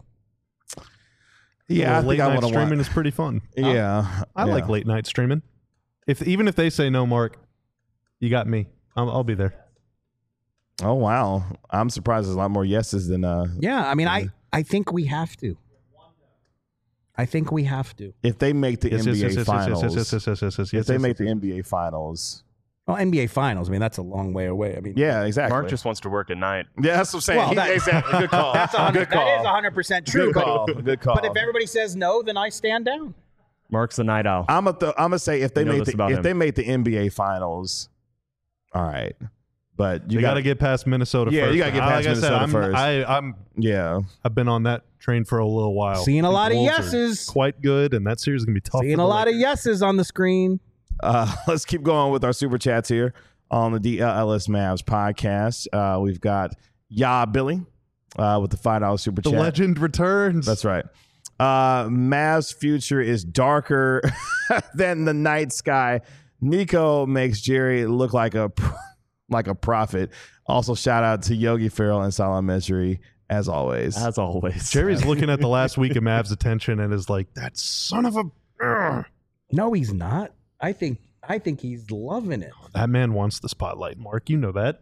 Yeah, Well, I late think I night want to streaming watch. is pretty fun. Yeah, I yeah. like late night streaming. If even if they say no, Mark, you got me. I'll, I'll be there. Oh wow, I'm surprised. There's a lot more yeses than uh. Yeah, I mean I I think we have to. I think we have to. If they make the Yes, N B A yes, yes, yes, yes, finals, yes, yes, yes, yes, yes, yes, if yes, they yes, make yes. the N B A finals, Well, N B A finals. I mean that's a long way away. I mean yeah, exactly. Mark just wants to work at night. yeah, that's what I'm saying. Well, He- that- exactly. Good call. that's a hundred. Good call. That is hundred percent true. Good call. But, Good call. but if everybody says no, then I stand down. Mark's the night owl. I'm gonna th- I'm gonna say if they You know make this the about if him. they make the N B A finals, all right. But you You got got to get past Minnesota Yeah, first. you gotta get Uh, past like I said, Minnesota I'm, first. I, I'm yeah. I've been on that train for a little while. Seeing a The lot of Wolves are yeses. quite good, and that series is gonna be tough. Seeing for a the lot of Lakers. yeses on the screen. Uh, let's keep going with our super chats here on the D L L S Mavs podcast. Uh, we've got Ya Billy uh, with the five dollar super The chat. legend returns. That's right. Uh, Mavs' future is darker than the night sky. Nico makes Jerry look like a like a prophet. Also, shout out to Yogi Ferrell and Salah Mejri as always. As always. Jerry's looking at the last week of Mavs attention and is like, "That son of a." Ugh." No, he's not. I think I think he's loving it. That man wants the spotlight, Mark. You know that.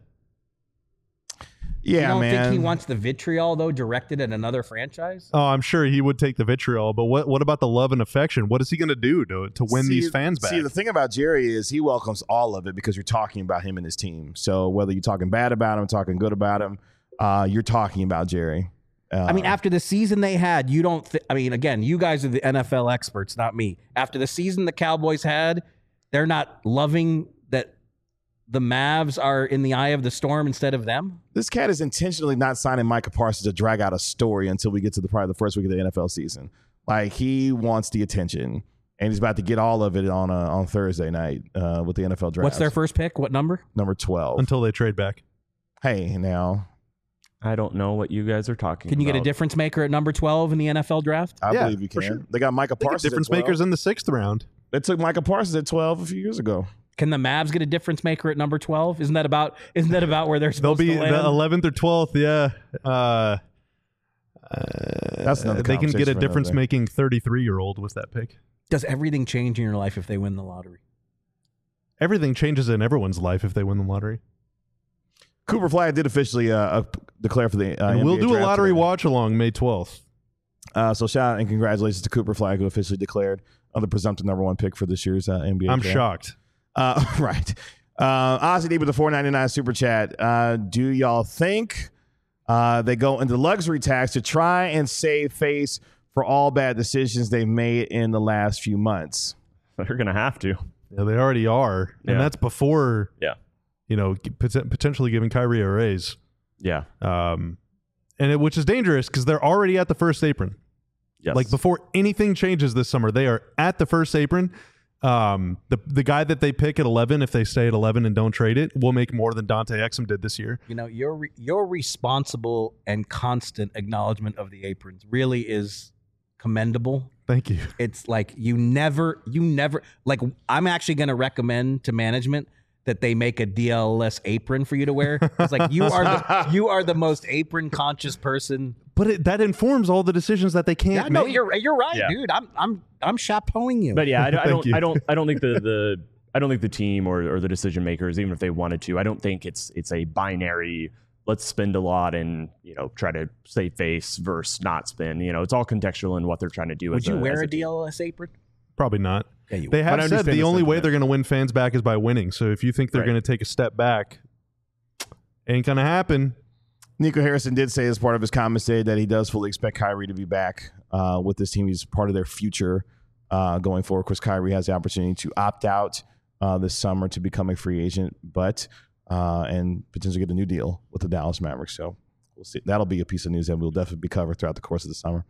you yeah, don't man. think he wants the vitriol though directed at another franchise? Oh, I'm sure he would take the vitriol, but what what about the love and affection? What is he going to do to to win See- these fans back? See, the thing about Jerry is he welcomes all of it because you're talking about him and his team. So whether you're talking bad about him, talking good about him, uh, you're talking about Jerry. Uh, I mean, after the season they had, you don't. Th- I mean, again, you guys are the N F L experts, not me. After the season the Cowboys had, they're not loving that the Mavs are in the eye of the storm instead of them. this cat is intentionally not signing Micah Parsons to drag out a story until we get to the probably the first week of the N F L season. Like he wants the attention, and he's about to get all of it on uh, on Thursday night uh, with the N F L draft. What's their first pick? What number? number twelve? Until they trade back. Hey, now I don't know what you guys are talking about. Can you get a difference maker at number twelve in the N F L draft? I Yeah, believe you for can. sure. They got Micah They get Parsons. difference at twelve. makers in the sixth round. They took Micah Parsons at twelve a few years ago. Can the Mavs get a difference maker at number twelve? Isn't that about isn't that about where they're They'll supposed be to land? the eleventh or twelfth. Yeah. Uh, That's another they can get conversation a for another difference day. making thirty-three year old with that pick. Does everything change in your life if they win the lottery? Everything changes in everyone's life if they win the lottery. Cooper Flag did officially uh, uh, declare for the uh, And we'll N B A do a draft lottery today. watch along May twelfth. Uh, so shout out and congratulations to Cooper Flag, who officially declared uh, the presumptive number one pick for this year's uh, N B A I'm draft. shocked. Uh, right. Uh, Ozzy D with the four ninety-nine super chat. Uh, do y'all think uh, they go into luxury tax to try and save face for all bad decisions they've made in the last few months? They're going to have to. Yeah, they already are, and Yeah. that's before Yeah. you know g- pot- potentially giving Kyrie a raise. Yeah. Um, and it, which is dangerous because they're already at the first apron. Yes. Like before anything changes this summer, they are at the first apron. Um, the the guy that they pick at eleven, if they stay at eleven and don't trade it, will make more than Dante Exum did this year. You know, your re- your responsible and constant acknowledgement of the aprons really is commendable. Thank you. It's like you never, you never, like I'm actually going to recommend to management that they make a D L S apron for you to wear. It's like you are the you are the most apron conscious person. But it, that informs all the decisions that they can't Yeah, no, make. you're you're right, Yeah. dude. I'm I'm I'm chapeauing you. But yeah, I, don't- I Thank don't. you. I don't. I don't think the, the I don't think the team or, or the decision makers, even if they wanted to, I don't think it's it's a binary. Let's spend a lot and you know try to save face versus not spend. You know, it's all contextual in what they're trying to do. Would as you a, wear as a a team. D L S apron? Probably not. Yeah, you They would. have But I said understand the the only way sentiment. they're going to win fans back is by winning. So if you think they're Right. going to take a step back, ain't going to happen. Nico Harrison did say as part of his comments today that he does fully expect Kyrie to be back uh, with this team. He's part of their future uh, going forward. Of course, Kyrie has the opportunity to opt out uh, this summer to become a free agent, but uh, and potentially get a new deal with the Dallas Mavericks. So we'll see. That'll be a piece of news that we'll definitely be covered throughout the course of the summer.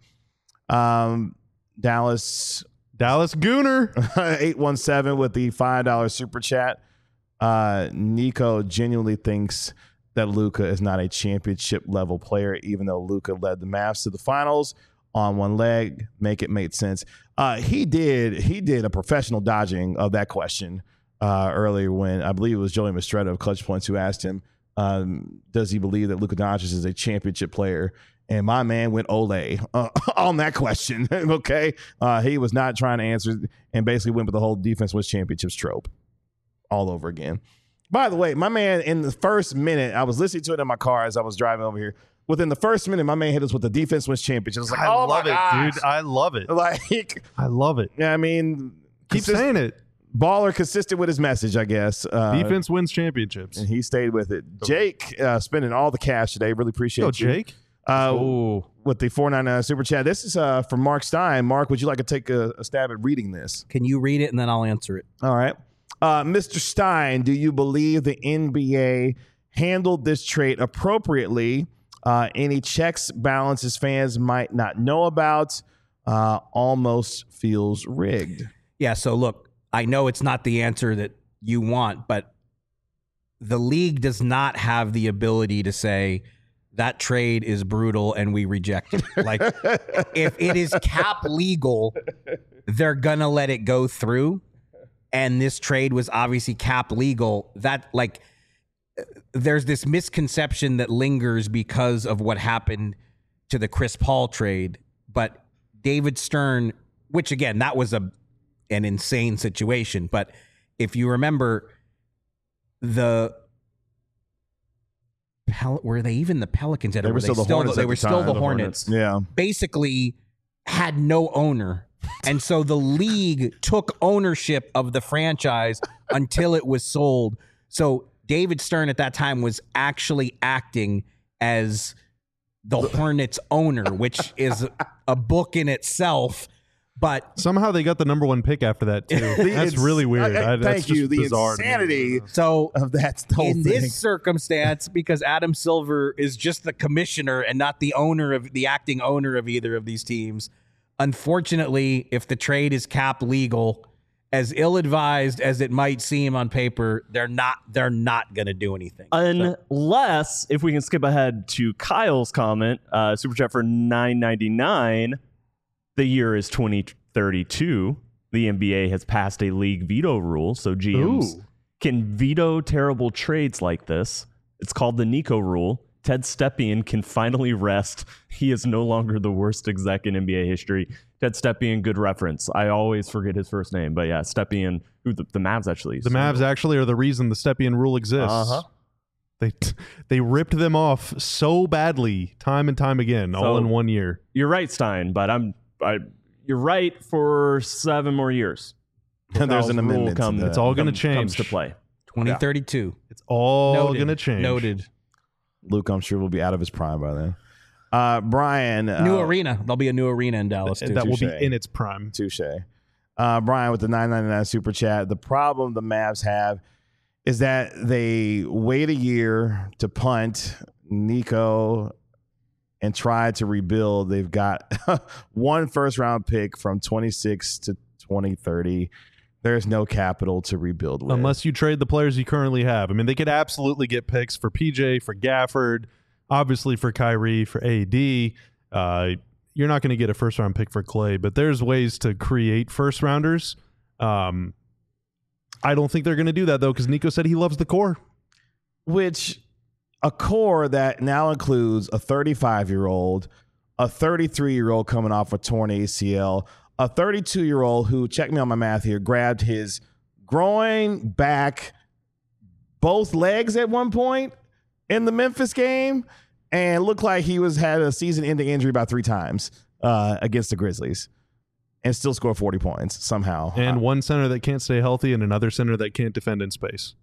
Um, Dallas Dallas Gooner. eight one seven with the five dollars super chat. Uh, Nico genuinely thinks that Luka is not a championship level player, even though Luka led the Mavs to the finals on one leg. Make it make sense. Uh, he did. He did a professional dodging of that question uh, earlier when I believe it was Joey Mastretta of Clutch Points who asked him, um, does he believe that Luka Doncic is a championship player? And my man went Olay uh, on that question. Okay. Uh, he was not trying to answer and basically went with the whole defense wins championships trope all over again. By the way, my man, in the first minute, I was listening to it in my car as I was driving over here. Within the first minute, my man hit us with the defense wins championship. I was like, I oh love my it, gosh. dude. I love it. Like, I love it. yeah, I mean, Keep consist- saying it. baller consistent with his message, I guess. Uh, Defense wins championships. and he stayed with it. Jake uh, spending all the cash today. Really appreciate Go, you. Jake. Uh, Oh, with the four ninety-nine super chat. This is uh, from Mark Stein. Mark, would you like to take a, a stab at reading this? Can you read it and then I'll answer it? All right. Uh, Mister Stein, do you believe the N B A handled this trade appropriately? Uh, any checks, balances fans might not know about? Uh, almost feels rigged. Yeah, so look, I know it's not the answer that you want, but the league does not have the ability to say that trade is brutal and we reject it. Like, if it is cap legal, they're gonna let it go through. And this trade was obviously cap legal. That, like, there's this misconception that lingers because of what happened to the Chris Paul trade. But David Stern, which again, that was a an insane situation. But if you remember, the Pel- were they even the Pelicans? Or They were still the Hornets They at were the still time. the The Hornets. Yeah. Basically, had no owner. And so the league took ownership of the franchise until it was sold. So David Stern at that time was actually acting as the Hornets owner, which is a book in itself. But Somehow they got the number one pick after that, too. That's It's- really weird. I- I- I- that's thank just you. The bizarre to me. insanity so of that whole in thing. this circumstance, because Adam Silver is just the commissioner and not the owner of the acting owner of either of these teams, unfortunately, if the trade is cap legal as ill-advised as it might seem on paper, they're not they're not going to do anything. Unless, if we can skip ahead to Kyle's comment, uh, Super Chat for nine ninety-nine, the year is twenty thirty-two. The N B A has passed a league veto rule, so G Ms Ooh. can veto terrible trades like this. It's called the Nico rule. Ted Stepien can finally rest. He is no longer the worst exec in N B A history. Ted Stepien, good reference. I always forget his first name, but yeah, Stepien, who the, the Mavs actually. The Mavs actually are the reason the Stepien rule exists. Uh-huh. They they ripped them off so badly, time and time again, all So- in one year. You're right, Stein, but I'm. I, you're right for seven more years. There's Kyle's an rule amendment. to come- that. It's all going to come- Comes change. to play. twenty thirty-two. It's all Noted. going to change. Noted. Luke, I'm sure, will be out of his prime by then. Uh, Brian. New uh, arena. There'll be a new arena in Dallas too. That will be Touche. in its prime. Touche. Uh, Brian with the nine ninety-nine super chat. The problem the Mavs have is that they wait a year to punt Nico and try to rebuild. They've got one first round pick from twenty-six to twenty thirty. There's no capital to rebuild with. Unless you trade the players you currently have. I mean, they could absolutely get picks for P J, for Gafford, obviously for Kyrie, for A D. Uh, you're not going to get a first round pick for Clay, but there's ways to create first rounders. Um, I don't think they're going to do that, though, because Nico said he loves the core. Which a core that now includes a thirty-five-year-old, a thirty-three-year-old coming off a torn A C L, a thirty-two-year-old who, check me on my math here, grabbed his groin, back, both legs at one point in the Memphis game and looked like he was had a season-ending injury about three times uh, against the Grizzlies and still scored forty points somehow. And Uh, one center that can't stay healthy and another center that can't defend in space.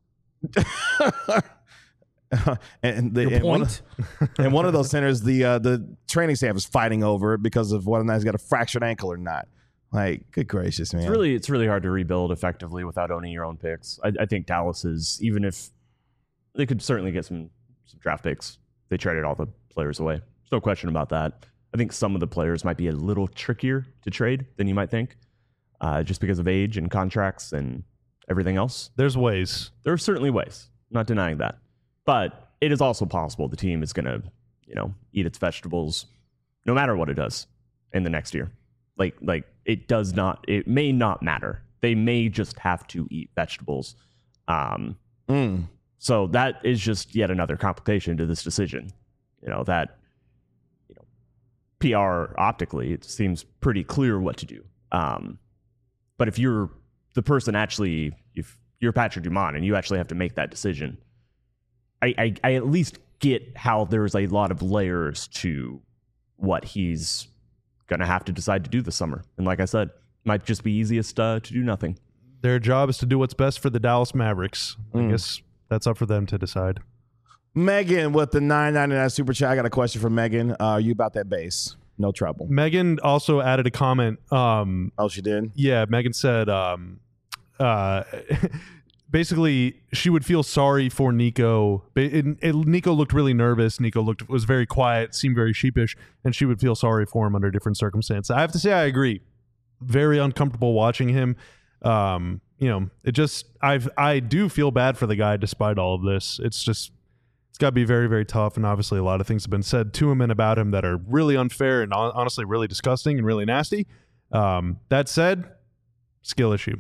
and, the, Your and one point? of, and one of those centers, the uh, the training staff is fighting over because of whether or not he's got a fractured ankle or not. Like, good gracious, man! It's really, it's really hard to rebuild effectively without owning your own picks. I, I think Dallas is, even if they could certainly get some, some draft picks, they traded all the players away. There's no question about that. I think some of the players might be a little trickier to trade than you might think, uh, just because of age and contracts and everything else. There's ways. There are certainly ways, not denying that. But it is also possible the team is going to, you know, eat its vegetables no matter what it does in the next year. Like, like it does not, it may not matter. They may just have to eat vegetables. Um, Mm. so that is just yet another complication to this decision. You know, that, you know, P R optically, it seems pretty clear what to do. Um, but if you're the person actually, if you're Patrick Dumont and you actually have to make that decision, I, I, I at least get how there's a lot of layers to what he's going to have to decide to do this summer. And like I said, might just be easiest uh, to do nothing. Their job is to do what's best for the Dallas Mavericks. I Mm. guess that's up for them to decide. Megan with the nine ninety-nine super chat. I got a question for Megan. Uh, are you about that base? No trouble. Megan also added a comment. Um, Oh, she did? yeah, Megan said um, uh, basically she would feel sorry for Nico. Ba- it- it- Nico looked really nervous. Nico looked was very quiet, seemed very sheepish, and she would feel sorry for him under different circumstances. I have to say I agree. Very uncomfortable watching him. Um, you know, it just I've I do feel bad for the guy despite all of this. It's just it's got to be very, very tough. And obviously, a lot of things have been said to him and about him that are really unfair and hon- honestly really disgusting and really nasty. Um, that said, skill issue.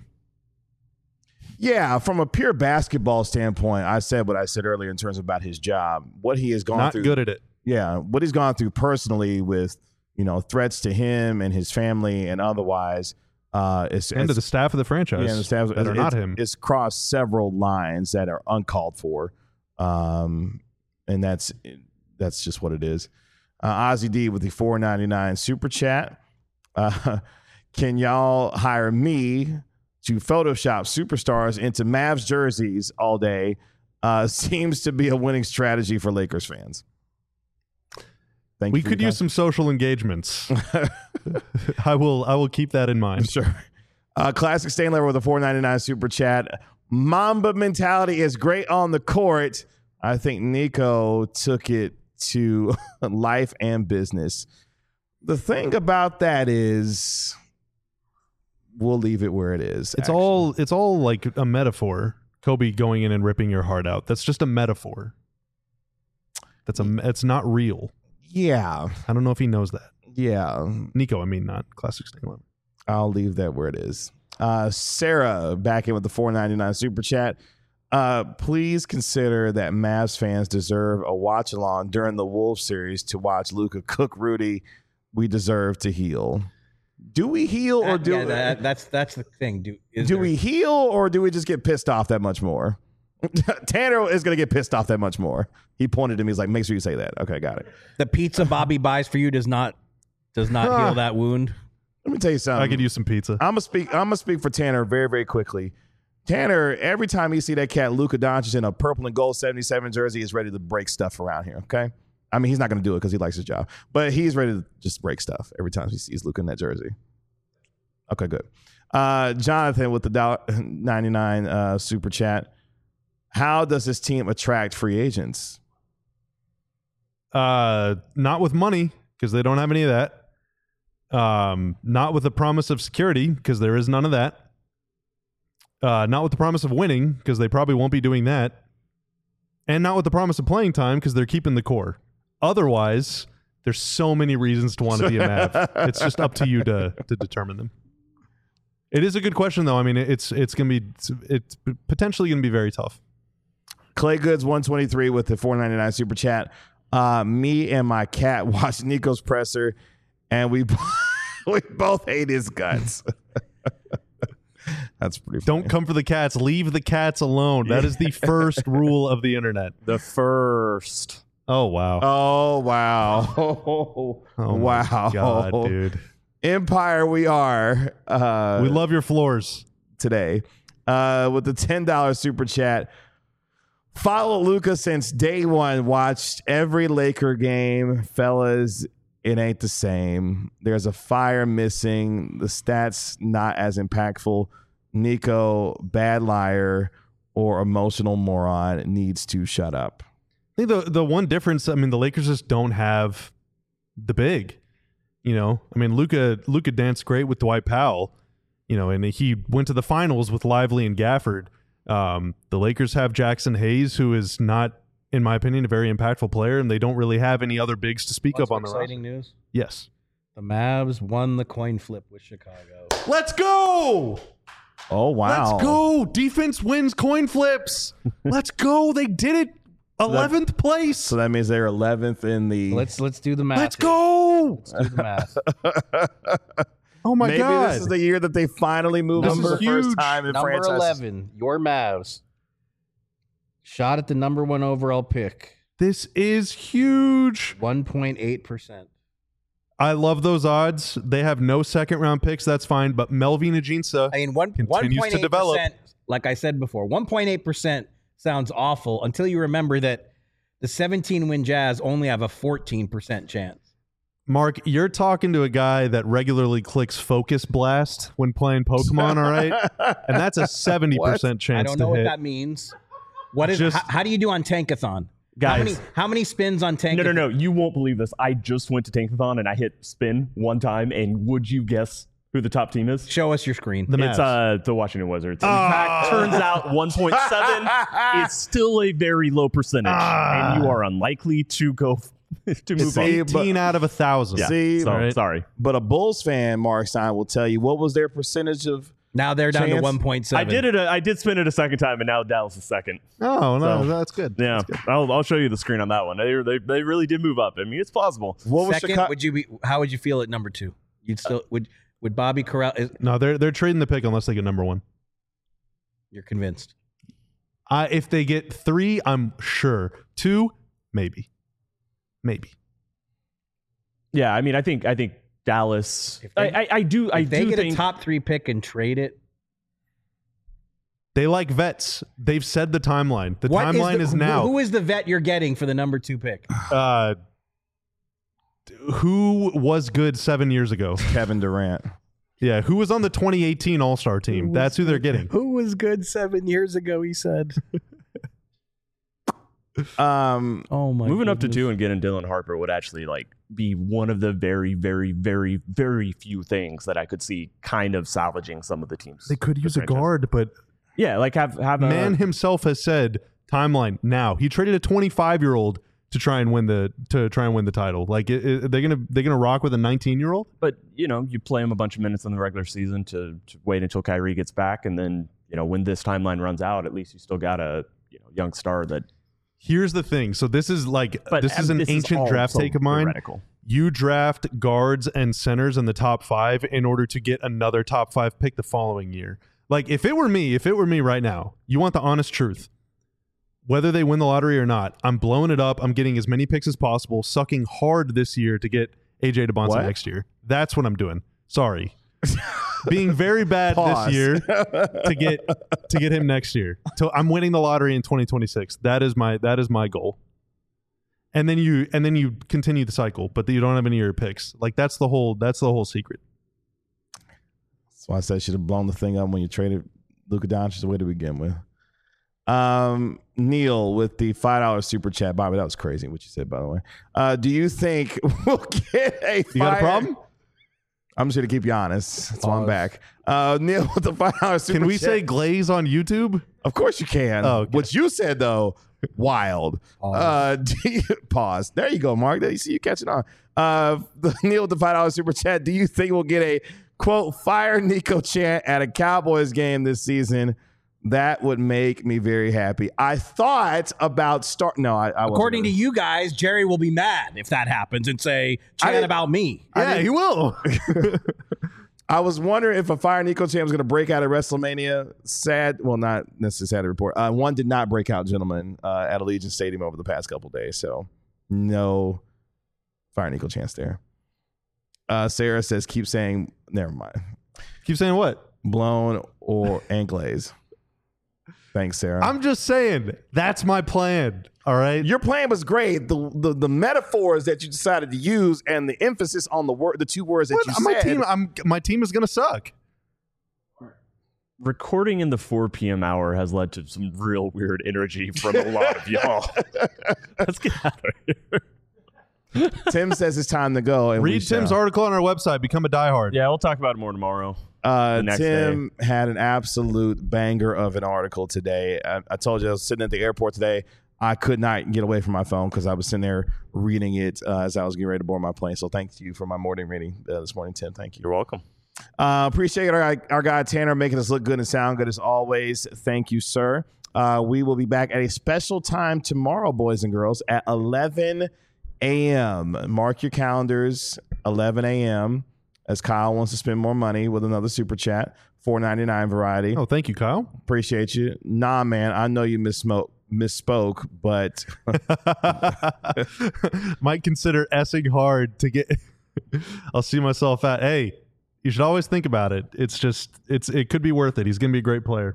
Yeah, from a pure basketball standpoint, I said what I said earlier in terms of about his job, what he has gone Not through. good at it. Yeah, what he's gone through personally with, you know, threats to him and his family and otherwise. Uh, it's, And to it's, the staff of the franchise yeah, and the staff, that are it's, not him. It's crossed several lines that are uncalled for, um, and that's that's just what it is. Uh, Ozzy D with the four ninety-nine super chat. Uh, can y'all hire me to Photoshop superstars into Mavs jerseys all day? Uh, seems to be a winning strategy for Lakers fans. Thank We you for could your use some social engagements. I will I will keep that in mind. Sure. Uh, Classic Stain Lever with a four ninety-nine super chat. Mamba mentality is great on the court. I think Nico took it to life and business. The thing about that is we'll leave it where it is. It's actually. all it's all like a metaphor. Kobe going in and ripping your heart out. That's just a metaphor. That's a it's not real. Yeah. I don't know if he knows that. Yeah. Nico, I mean not Classic Sting eleven. I'll leave that where it is. Uh, Sarah back in with the four ninety-nine super chat. Uh, please consider that Mavs fans deserve a watch along during the Wolves series to watch Luka cook Rudy. We deserve to heal. Do we heal or do yeah, that, that's that's the thing. Do is do there, we heal or do we just get pissed off that much more? Tanner is going to get pissed off that much more. He pointed to me. He's like, make sure you say that. Okay, got it. the pizza Bobby buys for you does not does not heal that wound? Let me tell you something. I could use some pizza. I'm gonna speak. I'm gonna speak for Tanner very, very quickly. Tanner, every time you see that cat Luka Doncic in a purple and gold seventy-seven jersey, is ready to break stuff around here. Okay, I mean he's not gonna do it because he likes his job, but he's ready to just break stuff every time he sees Luka in that jersey. Okay, good. Uh, Jonathan with the ninety-nine uh, super chat. How does this team attract free agents? Uh, not with money because they don't have any of that. Um, not with the promise of security because there is none of that. Uh, not with the promise of winning because they probably won't be doing that. And not with the promise of playing time because they're keeping the core. Otherwise, there's so many reasons to want to be a Mav. It's just up to you to to determine them. It is a good question, though. I mean, it's it's gonna be it's, it's potentially gonna be very tough. Clay Goods one twenty-three with the four ninety-nine super chat. Uh, me and my cat watched Nico's presser, and we we both hate his guts. That's pretty funny. Don't come for the cats. Leave the cats alone. That is the first rule of the internet. The first. Oh, wow. Oh, wow. Oh, Oh, wow. my God, dude. Empire, we are. Uh, We love your floors. today uh, with the ten dollars super chat. Follow Luka since day one. Watched every Laker game. Fellas, it ain't the same. There's a fire missing. The stats not as impactful. Nico, bad liar or emotional moron, needs to shut up. I think the, the one difference, I mean, the Lakers just don't have the big. You know, I mean, Luka Luka danced great with Dwight Powell, you know, and he went to the finals with Lively and Gafford. Um, the Lakers have Jackson Hayes, who is not, in my opinion, a very impactful player, and they don't really have any other bigs to speak What's up on the roster. exciting news? Yes. The Mavs won the coin flip with Chicago. Let's go! Oh, wow. Let's go! Defense wins coin flips. Let's go! They did it. eleventh place. So that means they're eleventh in the. Let's let's do the math. Let's here. go! Let's do the math. Oh my Maybe God! this is the year that they finally move This them is for the first huge. time in Number franchise. eleven, your Mavs. Shot at the number one overall pick. This is huge. one point eight percent. I love those odds. They have no second round picks. That's fine. But Melvin Ajinça I mean, one continues to develop. percent, like I said before, one point eight percent sounds awful until you remember that the seventeen win Jazz only have a fourteen percent chance. Mark, you're talking to a guy that regularly clicks Focus Blast when playing Pokemon, all right? And that's a seventy percent chance I don't to know what hit. that means. What is? Just- how, how do you do on Tankathon? Guys. how many, how many spins on Tankathon? No, no, no. You won't believe this. I just went to Tankathon and I hit spin one time. And would you guess who the top team is? Show us your screen. The It's Mavs. uh, the Washington Wizards. In fact, turns out one point seven is still a very low percentage. And you are unlikely to go to move See, on. but- eighteen out of a thousand. Yeah. See, So, right. sorry. but a Bulls fan, Mark Stein, will tell you what was their percentage of. now they're down to Chance? one point seven. I did it. A, I did spin it a second time, and now Dallas is second. Oh, no, So- that's good. Yeah, I'll, I'll show you the screen on that one. They, they they really did move up. I mean, it's plausible. What was Second, Chicago? would you be? How would you feel at number two? You'd still would would Bobby Corral? Is, No, they're they're trading the pick unless they get number one. you're convinced? Uh, if they get three, I'm sure. Two, maybe. Maybe. Yeah, I mean, I think I think Dallas. If they- I, I I do I If they do get think a top three pick and trade it, They like vets. They've said the timeline. The what timeline the- is, who- now. Who is the vet you're getting for the number two pick? uh, who was good seven years ago? Kevin Durant. Yeah, who was on the twenty eighteen All-Star team? That's who they're getting. Who was good seven years ago? He said. Um, Oh my! moving up to goodness. two and getting Dylan Harper would actually like be one of the very, very, very, very few things that I could see kind of salvaging some of the teams. They could use a franchise. guard, but yeah, like have have Man a, himself has said timeline now. He traded a twenty-five year old to try and win the to try and win the title. Like it, it, they're gonna they're gonna rock with a nineteen year old. But you know, you play him a bunch of minutes in the regular season to, to wait until Kyrie gets back, and then you know when this timeline runs out, at least you still got a you know young star that. Here's the thing. So this is like But this is an this ancient all draft so take of mine. theoretical. You draft guards and centers in the top five in order to get another top five pick the following year. Like if it were me, if it were me right now, you want the honest truth. Whether they win the lottery or not, I'm blowing it up. I'm getting as many picks as possible, sucking hard this year to get A J DeBonta What? next year. That's what I'm doing. Sorry. Being very bad Pause. this year to get to get him next year. So I'm winning the lottery in twenty twenty-six. That is my that is my goal. And then you and then you continue the cycle, but you don't have any of your picks. Like that's the whole that's the whole secret. That's why I said I should have blown the thing up when you traded Luka Doncic away to begin with. Um, Neil with the five dollar super chat. Bobby, that was crazy what you said, by the way. Uh, do you think we'll get a You got a fire- problem? I'm just going to keep you honest. That's why I'm back. Uh, Neil with the five dollar super Can we chat. say glaze on YouTube? Of course you can. Oh, okay. What you said, though, wild. Uh, do you- pause. There you go, Mark. There you see you catching on. Uh, the Neil with the five dollar super chat. Do you think we'll get a, quote, fire Nico chant at a Cowboys game this season? That would make me very happy. I thought about start. No, I, I wasn't According to gonna- you guys, Jerry will be mad if that happens and say, I chat didn't- about me. Yeah, he will. I was wondering if a Fire Nico chant was going to break out at WrestleMania. Sad, well, not necessarily sad to report. Uh, one did not break out, gentlemen, uh, at Allegiant Stadium over the past couple days. So, no Fire Nico chants there. Uh, Sarah says, keep saying, never mind. Keep saying what? Blown or and glaze. Thanks, Sarah. I'm just saying that's my plan. All right. Your plan was great. The, the the metaphors that you decided to use and the emphasis on the word, the two words that What? you my said. team. I'm my team is gonna suck. Recording in the four p.m. hour has led to some real weird energy from a lot of y'all. Let's get out of here. Tim says it's time to go. And we Read Tim's shall. article on our website. Become a diehard. Yeah, we'll talk about it more tomorrow. Uh, the next Tim had an absolute banger of an article today. I, I told you I was sitting at the airport today. I could not get away from my phone because I was sitting there reading it uh, as I was getting ready to board my plane. So thank you for my morning reading uh, this morning, Tim. Thank you. You're welcome. Uh, appreciate our, our guy Tanner making us look good and sound good as always. Thank you, sir. Uh, we will be back at a special time tomorrow, boys and girls, at eleven a.m. Mark your calendars, eleven a.m. as Kyle wants to spend more money with another super chat, four ninety-nine variety. Oh, thank you, Kyle. Appreciate you. Nah, man, I know you misspoke, misspoke, but Might consider essing hard to get. I'll see myself at. Hey, you should always think about it. It's just it's it could be worth it. He's gonna be a great player.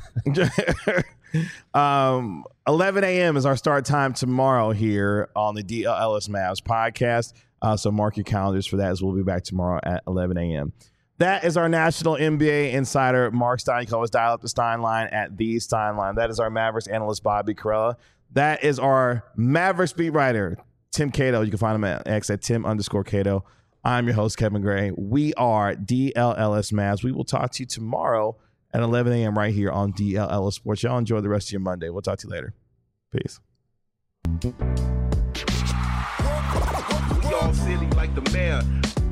um, eleven a.m. is our start time tomorrow here on the D L Ellis Mavs podcast. Uh, so mark your calendars for that as we'll be back tomorrow at eleven a.m. That is our national N B A insider, Mark Stein. You can always dial up the Stein line at the Stein line. That is our Mavericks analyst, Bobby Carella. That is our Mavericks beat writer, Tim Cato. You can find him at X at Tim underscore Cato. I'm your host, Kevin Gray. We are D L L S Mavs. We will talk to you tomorrow at eleven a.m. right here on D L L S Sports. Y'all enjoy the rest of your Monday. We'll talk to you later. Peace. We all silly like the mayor.